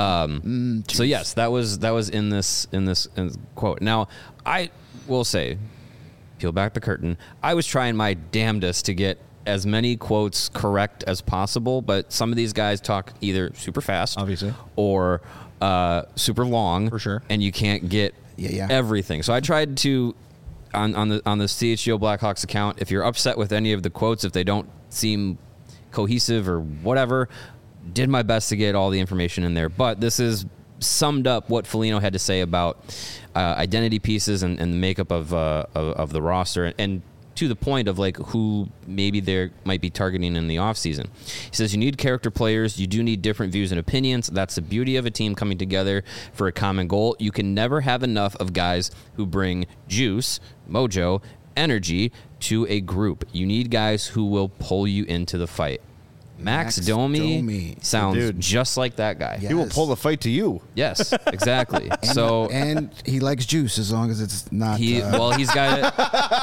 So yes, that was in this quote. Now I will say, peel back the curtain. I was trying my damnedest to get as many quotes correct as possible, but some of these guys talk either super fast, obviously, or super long, for sure, and you can't get everything. So I tried to on the CHGO Blackhawks account. If you're upset with any of the quotes, if they don't seem cohesive or whatever, did my best to get all the information in there. But this is summed up what Foligno had to say about identity pieces and the makeup of the roster, and to the point of like who maybe they might be targeting in the offseason. He says you need character players. You do need different views and opinions. That's the beauty of a team coming together for a common goal. You can never have enough of guys who bring juice, mojo, energy to a group. You need guys who will pull you into the fight. Max Domi sounds just like that guy. Yes. He will pull the fight to you. Yes, exactly. and he likes juice as long as it's not. He's got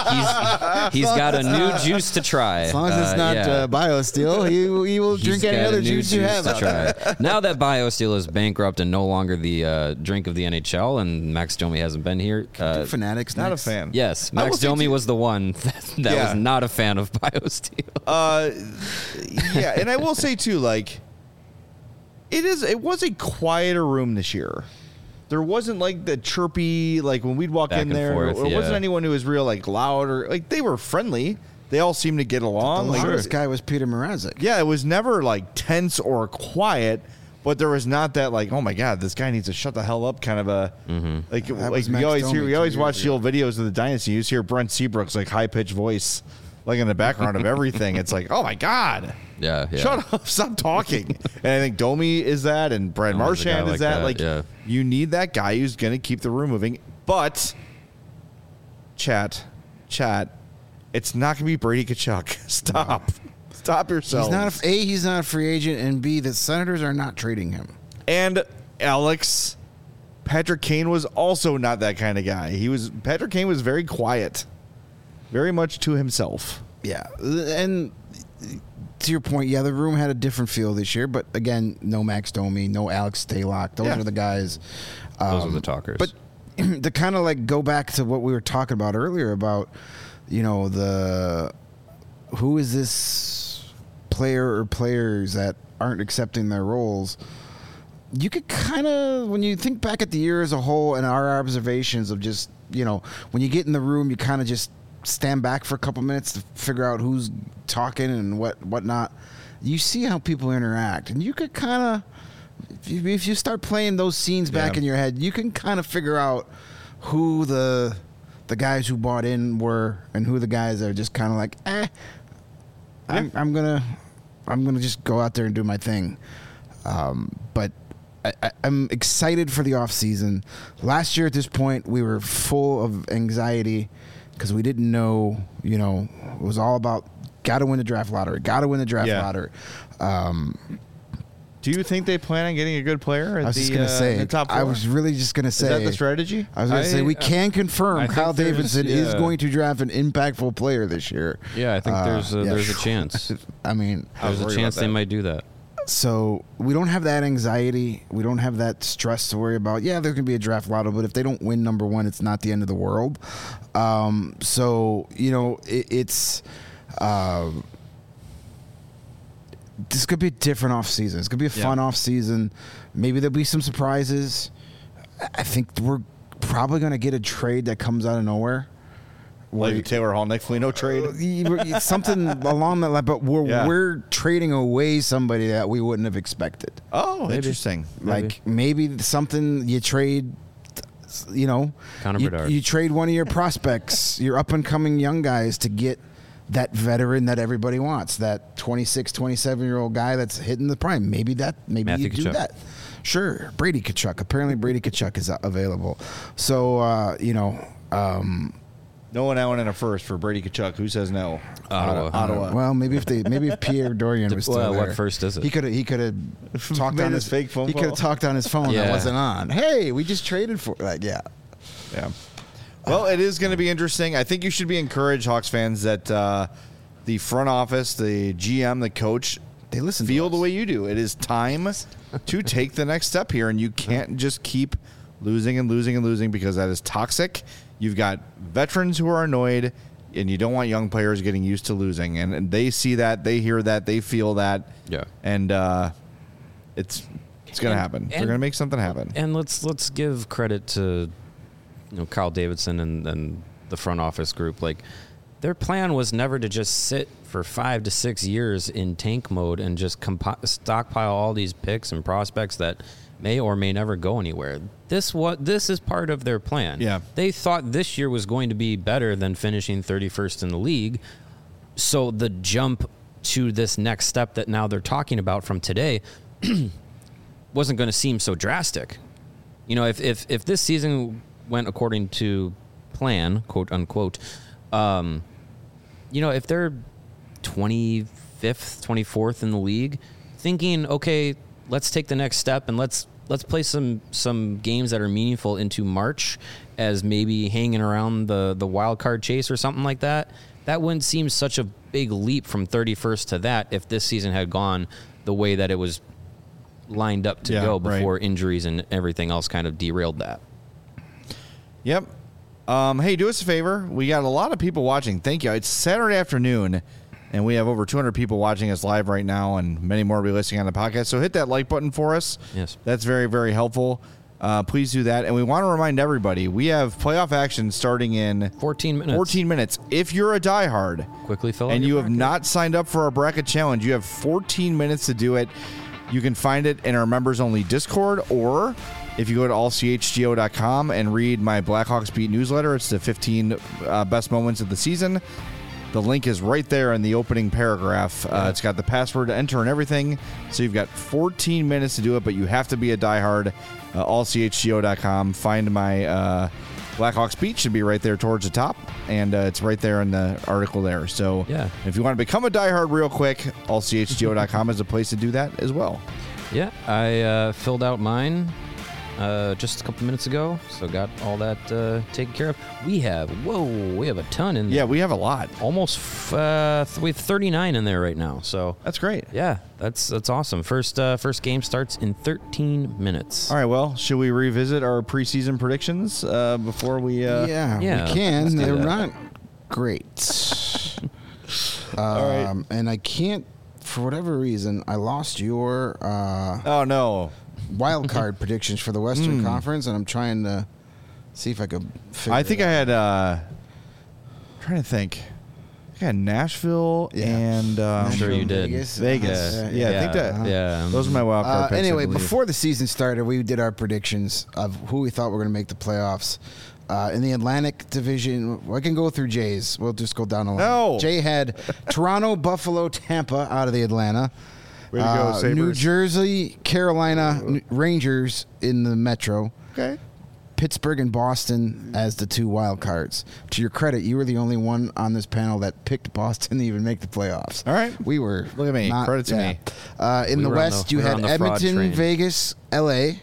a new juice to try. As long as it's not BioSteel, he will drink any other juice you have. To try. Now that BioSteel is bankrupt and no longer the drink of the NHL, and Max Domi hasn't been here, Fanatics not a fan. Yes, Max Domi was the one that was not a fan of BioSteel. Yeah. And I will say too, like, it was a quieter room this year. There wasn't like the chirpy, like when we'd walk in there, there wasn't anyone who was real like loud or like they were friendly. they all seem to get along. The Like, loudest guy was Peter Mrazek. yeah, it was never like tense or quiet, but there was not that like, oh my god, this guy needs to shut the hell up kind of a like That like was we Max always Domi hear, we 2 always years watch the old videos of the Dynasty. You just hear Brent Seabrook's like high pitched voice like in the background of everything. It's like, oh my god. Yeah. Shut up! Stop talking. And I think Domi is that, and Brad Domi's a guy Marchand is like that. that, Like, yeah. you need that guy who's going to keep the room moving. But, chat, it's not going to be Brady Tkachuk. Stop yourselves. He's not a free agent, and B, the Senators are not trading him. And Alex, Patrick Kane was also not that kind of guy. Patrick Kane was very quiet, very much to himself. Yeah, and to your point, yeah, the room had a different feel this year, but again, no Max Domi, no Alex Stalock. Those are the guys. Those are the talkers. But to kind of like go back to what we were talking about earlier about, who is this player or players that aren't accepting their roles? You could kind of, when you think back at the year as a whole and our observations of just, when you get in the room, you kind of just stand back for a couple minutes to figure out who's talking and whatnot. You see how people interact, and you could kind of, if you start playing those scenes back in your head, you can kind of figure out who the guys who bought in were and who the guys that are just kind of like, I'm gonna just go out there and do my thing. But I'm excited for the off season. Last year at this point, we were full of anxiety because we didn't know, it was all about got to win the draft lottery. Do you think they plan on getting a good player at I was the, just going to say, in the top 4? I was really just going to say. Is that the strategy? I was going to say, we can confirm I think Kyle there's- Davidson is yeah. going to draft an impactful player this year. Yeah, I think there's a chance. I mean, There's a chance they might do that. So we don't have that anxiety. We don't have that stress to worry about. Yeah, there can be a draft lotto, but if they don't win number 1, it's not the end of the world. It's this could be a different off season. It's gonna be a fun off season. Maybe there'll be some surprises. I think we're probably gonna get a trade that comes out of nowhere. Like a Taylor Hall, Nick Foligno trade? Something along that line, but we're trading away somebody that we wouldn't have expected. Oh, interesting. Like maybe something you trade, Connor Bedard. you trade one of your prospects, your up and coming young guys to get that veteran that everybody wants, that 26, 27-year-old guy that's hitting the prime. Maybe Matthew you do Tkachuk. that. Sure, Brady Tkachuk. Apparently, Brady Tkachuk is available. So No one out in a first for Brady Tkachuk. Who says no? Ottawa. Well, maybe if Pierre Dorian was still Well, there. what first is it? He could have talked Made on his his fake phone He could have call. talked on his phone that Yeah. wasn't on. Hey, we just traded for Yeah. Well, it is going to be interesting. I think you should be encouraged, Hawks fans, that the front office, the GM, the coach, they listen. Feel the way you do. It is time to take the next step here, and you can't just keep losing and losing and losing because that is toxic. You've got veterans who are annoyed, and you don't want young players getting used to losing. And they see that, they hear that, they feel that. Yeah. And it's going to happen. They're going to make something happen. And let's give credit to Kyle Davidson and the front office group. Like, their plan was never to just sit for 5 to 6 years in tank mode and just stockpile all these picks and prospects that may or may never go anywhere. This is part of their plan. Yeah. They thought this year was going to be better than finishing 31st in the league. So the jump to this next step that now they're talking about from today wasn't going to seem so drastic. If this season went according to plan, quote unquote, if they're 25th, 24th in the league, thinking, okay, let's take the next step and let's play some games that are meaningful into March as maybe hanging around the wild card chase or something like that. That wouldn't seem such a big leap from 31st to that if this season had gone the way that it was lined up to go before injuries and everything else kind of derailed that. Yep. Hey, do us a favor. We got a lot of people watching. Thank you. It's Saturday afternoon, and we have over 200 people watching us live right now, and many more will be listening on the podcast. So hit that like button for us. Yes. That's very, very helpful. please do that. And we want to remind everybody, we have playoff action starting in 14 minutes. 14 minutes. If you're a diehard quickly fill out and your you have bracket. not signed up for our bracket challenge, you have 14 minutes to do it. You can find it in our members-only Discord, or if you go to allchgo.com and read my Blackhawks Beat newsletter, it's the 15 best moments of the season. The link is right there in the opening paragraph. It's got the password to enter and everything. So you've got 14 minutes to do it, but you have to be a diehard. Allchgo.com. Find my Blackhawks Beat should be right there towards the top, and it's right there in the article there. So if you want to become a diehard real quick, allchgo.com is a place to do that as well. Yeah, I filled out mine just a couple minutes ago, so got all that taken care of. We have a ton in there. Yeah, we have a lot. Almost we have 39 in there right now. So that's great. Yeah, that's awesome. First game starts in 13 minutes. All right, well, should we revisit our preseason predictions before we... we can. They're not great. All right. And I can't, for whatever reason, I lost your... oh, no. wild card predictions for the Western Conference, and I'm trying to see if I could figure I think it I out. had... trying to think. I had Nashville and... I'm sure you did. Vegas. I think that... Those are my wild card picks, anyway, I believe. before the season started, we did our predictions of who we thought were going to make the playoffs. In the Atlantic Division, I can go through Jay's. We'll just go down the line. No. Jay had Toronto, Buffalo, Tampa out of the Atlanta. Way to go, Sabres. New Jersey, Carolina, Rangers in the Metro. Okay. Pittsburgh and Boston as the two wild cards. To your credit, you were the only one on this panel that picked Boston to even make the playoffs. All right. We were. Look at me. Credit to me. In the West, you had Edmonton, Vegas, L.A.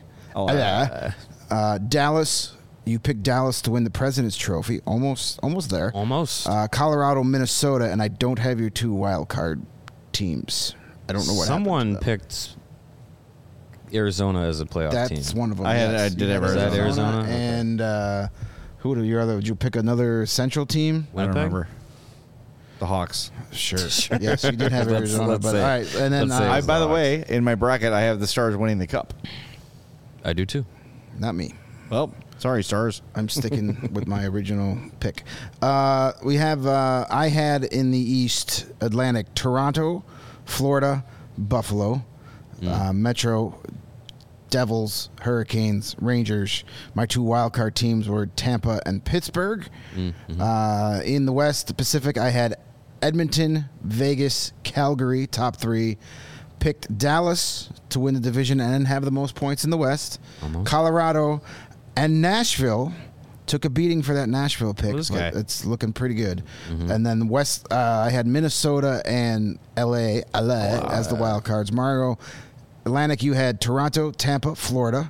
Dallas. You picked Dallas to win the President's Trophy. Almost there. Almost. Colorado, Minnesota, and I don't have your two wild card teams. I don't know what Someone happened to them. picked Arizona as a playoff team. That's one of them. I did have Arizona. Is that Arizona? And who do your other? Would you pick another Central team? I don't remember. The Hawks. Sure. Yes, you did have Arizona. let's But say. all right, and then by the way, in my bracket, I have the Stars winning the Cup. I do too. Not me. Well, sorry, Stars. I'm sticking with my original pick. We have I had in the East Atlantic Toronto, Florida, Buffalo, Metro, Devils, Hurricanes, Rangers. My two wildcard teams were Tampa and Pittsburgh. In the West, the Pacific, I had Edmonton, Vegas, Calgary, top three. Picked Dallas to win the division and have the most points in the West. Colorado and Nashville. Took a beating for that Nashville pick, but it's looking pretty good. And then West, I had Minnesota and LA as the wild cards. Mario, Atlantic, you had Toronto, Tampa, Florida.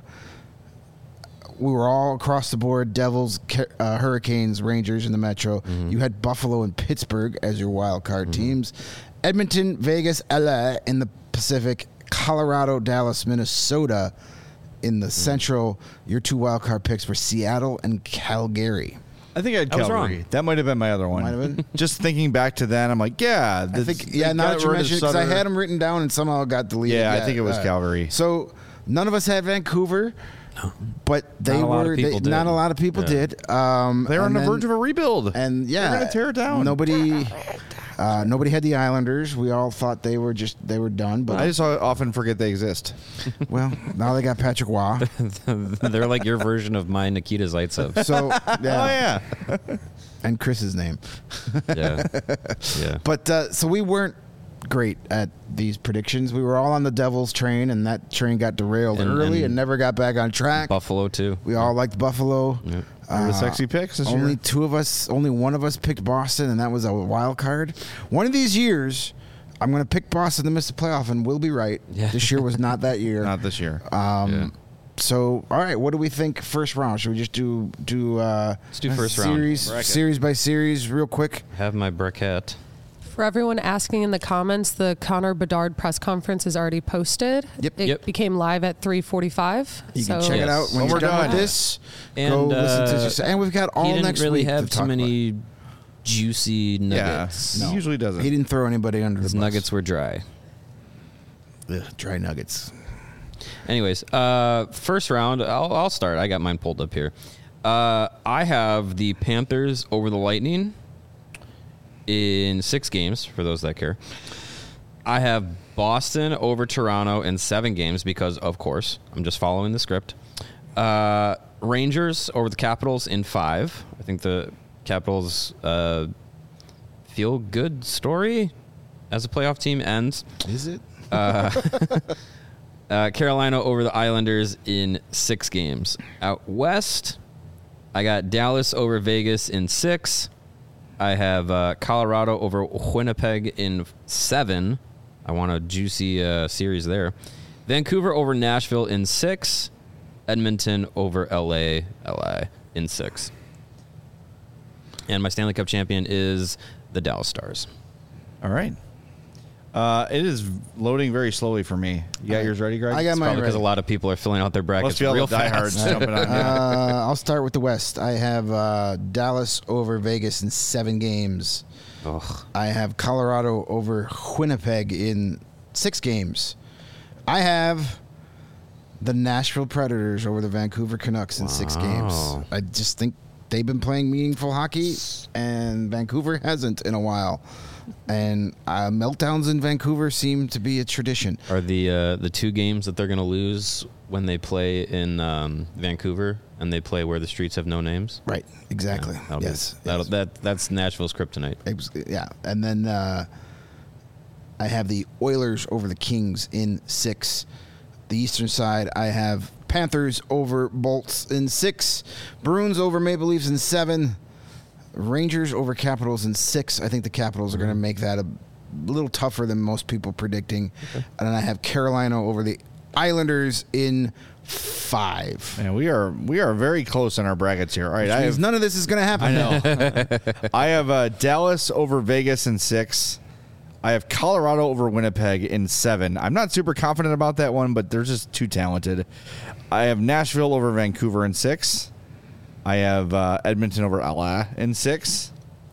We were all across the board, Devils, Hurricanes, Rangers in the Metro. You had Buffalo and Pittsburgh as your wild card teams. Edmonton, Vegas, LA in the Pacific. Colorado, Dallas, Minnesota in the Central. Your two wild card picks were Seattle and Calgary. I think I had I was Calgary. wrong. That might have been my other one. Might have been. Just thinking back to that, I'm like, yeah. I think, now that you mentioned it, because I had them written down and somehow it got deleted. Yeah, I think it was Calgary. So none of us had Vancouver, but they Not a lot of were. people did. Not a lot of people did. They were on the verge of a rebuild. And yeah, they're going to tear it down. Nobody had the Islanders. We all thought they were done. But I just often forget they exist. Well, now they got Patrick Waugh. They're like your version of my Nikita Zaitsev. So yeah. Oh, yeah. And Chris's name. Yeah. But so we weren't great at these predictions. We were all on the Devils train, and that train got derailed early and never got back on track. Buffalo too. We all liked Buffalo. Yep. The sexy picks this only year. Only one of us picked Boston, and that was a wild card. One of these years, I'm going to pick Boston to miss the playoff, and we'll be right. Yeah. This year was not that year. Not this year. So, all right, what do we think first round? Should we just do Let's do first round. Series by series, real quick? Have my bracket. For everyone asking in the comments, the Connor Bedard press conference is already posted. It became live at 3:45. You can check it out when we're done with this. And, go listen to and we've got all he next didn't really week have to too talk many juicy nuggets. He usually doesn't. He didn't throw anybody under His the bus. nuggets were dry. Ugh, dry nuggets. Anyways, first round, I'll start. I got mine pulled up here. I have the Panthers over the Lightning in 6 games, for those that care. I have Boston over Toronto in 7 games because, of course, I'm just following the script. Rangers over the Capitals in 5. I think the Capitals feel good story as a playoff team ends. Is it? Carolina over the Islanders in 6 games. Out west, I got Dallas over Vegas in 6. I have Colorado over Winnipeg in 7. I want a juicy series there. Vancouver over Nashville in 6. Edmonton over LA in 6. And my Stanley Cup champion is the Dallas Stars. All right. It is loading very slowly for me. You got yours ready, Greg? I got It's mine probably because ready. a lot of people are filling out their brackets Must be real all the diehards fast. jumping on. I'll start with the West. I have Dallas over Vegas in 7 games. Ugh. I have Colorado over Winnipeg in 6 games. I have the Nashville Predators over the Vancouver Canucks in 6 games. I just think they've been playing meaningful hockey, and Vancouver hasn't in a while. And meltdowns in Vancouver seem to be a tradition. Are the 2 games that they're going to lose when they play in Vancouver and they play where the streets have no names? Right, exactly. Yeah, Yes. That's Nashville's kryptonite. Yeah, and then I have the Oilers over the Kings in 6. The Eastern side, I have Panthers over Bolts in 6. Bruins over Maple Leafs in 7. Rangers over Capitals in 6. I think the Capitals are going to make that a little tougher than most people predicting. Okay. And then I have Carolina over the Islanders in 5. Man, we are very close in our brackets here. All right, none of this is going to happen. I know. I have Dallas over Vegas in 6. I have Colorado over Winnipeg in 7. I'm not super confident about that one, but they're just too talented. I have Nashville over Vancouver in 6. I have Edmonton over LA in 6.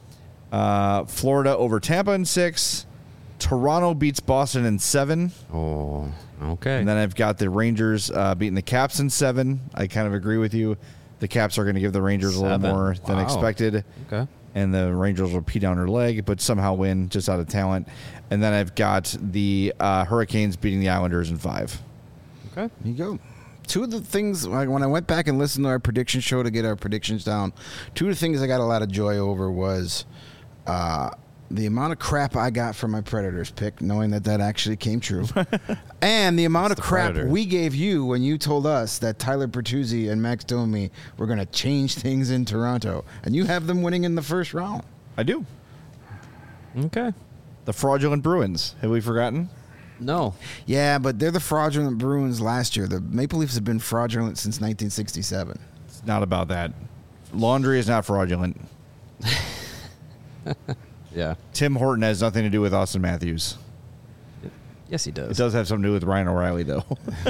Florida over Tampa in 6. Toronto beats Boston in 7. Oh, okay. And then I've got the Rangers beating the Caps in 7. I kind of agree with you. The Caps are going to give the Rangers a little more than expected. Okay. And the Rangers will pee down their leg, but somehow win just out of talent. And then I've got the Hurricanes beating the Islanders in 5. Okay. There you go. 2 of the things, when I went back and listened to our prediction show to get our predictions down, 2 of the things I got a lot of joy over was the amount of crap I got from my Predators pick, knowing that actually came true, and the amount of crap we gave you when you told us that Tyler Bertuzzi and Max Domi were going to change things in Toronto, and you have them winning in the first round. I do. Okay. The fraudulent Bruins. Have we forgotten? No. Yeah, but they're the fraudulent Bruins last year. The Maple Leafs have been fraudulent since 1967. It's not about that. Laundry is not fraudulent. Yeah. Tim Horton has nothing to do with Austin Matthews. Yes, he does. It does have something to do with Ryan O'Reilly, though.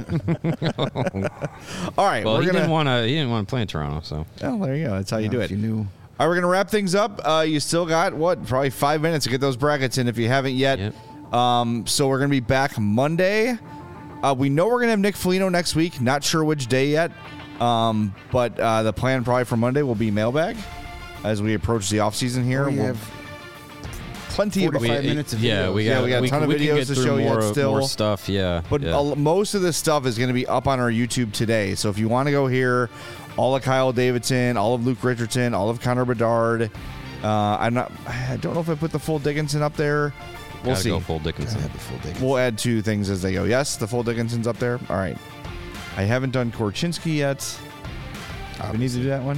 All right. Well, he didn't want to play in Toronto, so. Oh, there you go. That's how you do it. You knew. All right, we're going to wrap things up. You still got, probably 5 minutes to get those brackets in if you haven't yet. Yep. So we're going to be back Monday. We know we're going to have Nick Foligno next week. Not sure which day yet. But the plan probably for Monday will be mailbag as we approach the offseason here. We have plenty of 45 minutes of videos. we got a ton of videos to show more, yet still. More stuff, yeah. But most of this stuff is going to be up on our YouTube today. So if you want to go hear all of Kyle Davidson, all of Luke Richardson, all of Connor Bedard, I don't know if I put the full Dickinson up there. We'll see. Go full Dickinson. We'll add 2 things as they go. Yes, the full Dickinson's up there. All right. I haven't done Korchinski yet. We need to do that one.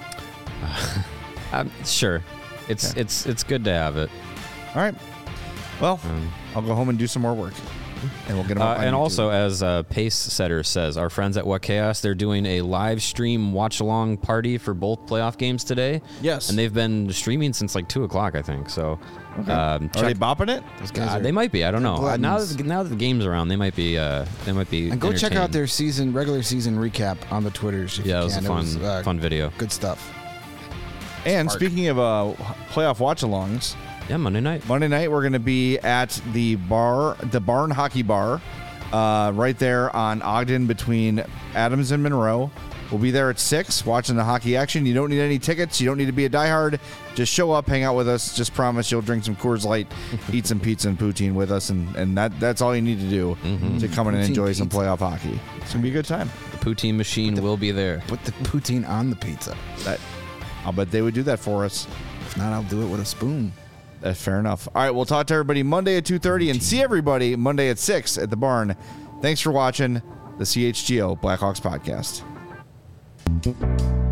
Sure. It's good to have it. All right. Well, I'll go home and do some more work. And we'll get them up on and YouTube. also, as Pace Setter says, our friends at What Chaos, they're doing a live stream watch-along party for both playoff games today. Yes. And they've been streaming since like 2 o'clock, I think. So, Okay. Are they bopping it? Those guys they might be. I don't know. Now gluttons. that the game's around, they might be. And go check out their regular season recap on the Twitters. If Yeah, you it was can. a fun video. Good stuff. And speaking of playoff watch-alongs, yeah, Monday night. Monday night we're going to be at the Barn Hockey Bar right there on Ogden between Adams and Monroe. We'll be there at 6 watching the hockey action. You don't need any tickets. You don't need to be a diehard. Just show up, hang out with us. Just promise you'll drink some Coors Light, eat some pizza and poutine with us, and that's all you need to do to come in and enjoy some playoff hockey. It's going to be a good time. The poutine machine will be there. Put the poutine on the pizza. I'll bet they would do that for us. If not, I'll do it with a spoon. That's fair enough. All right, we'll talk to everybody Monday at 2:30 and see everybody Monday at 6 at the barn. Thanks for watching the CHGO Blackhawks podcast.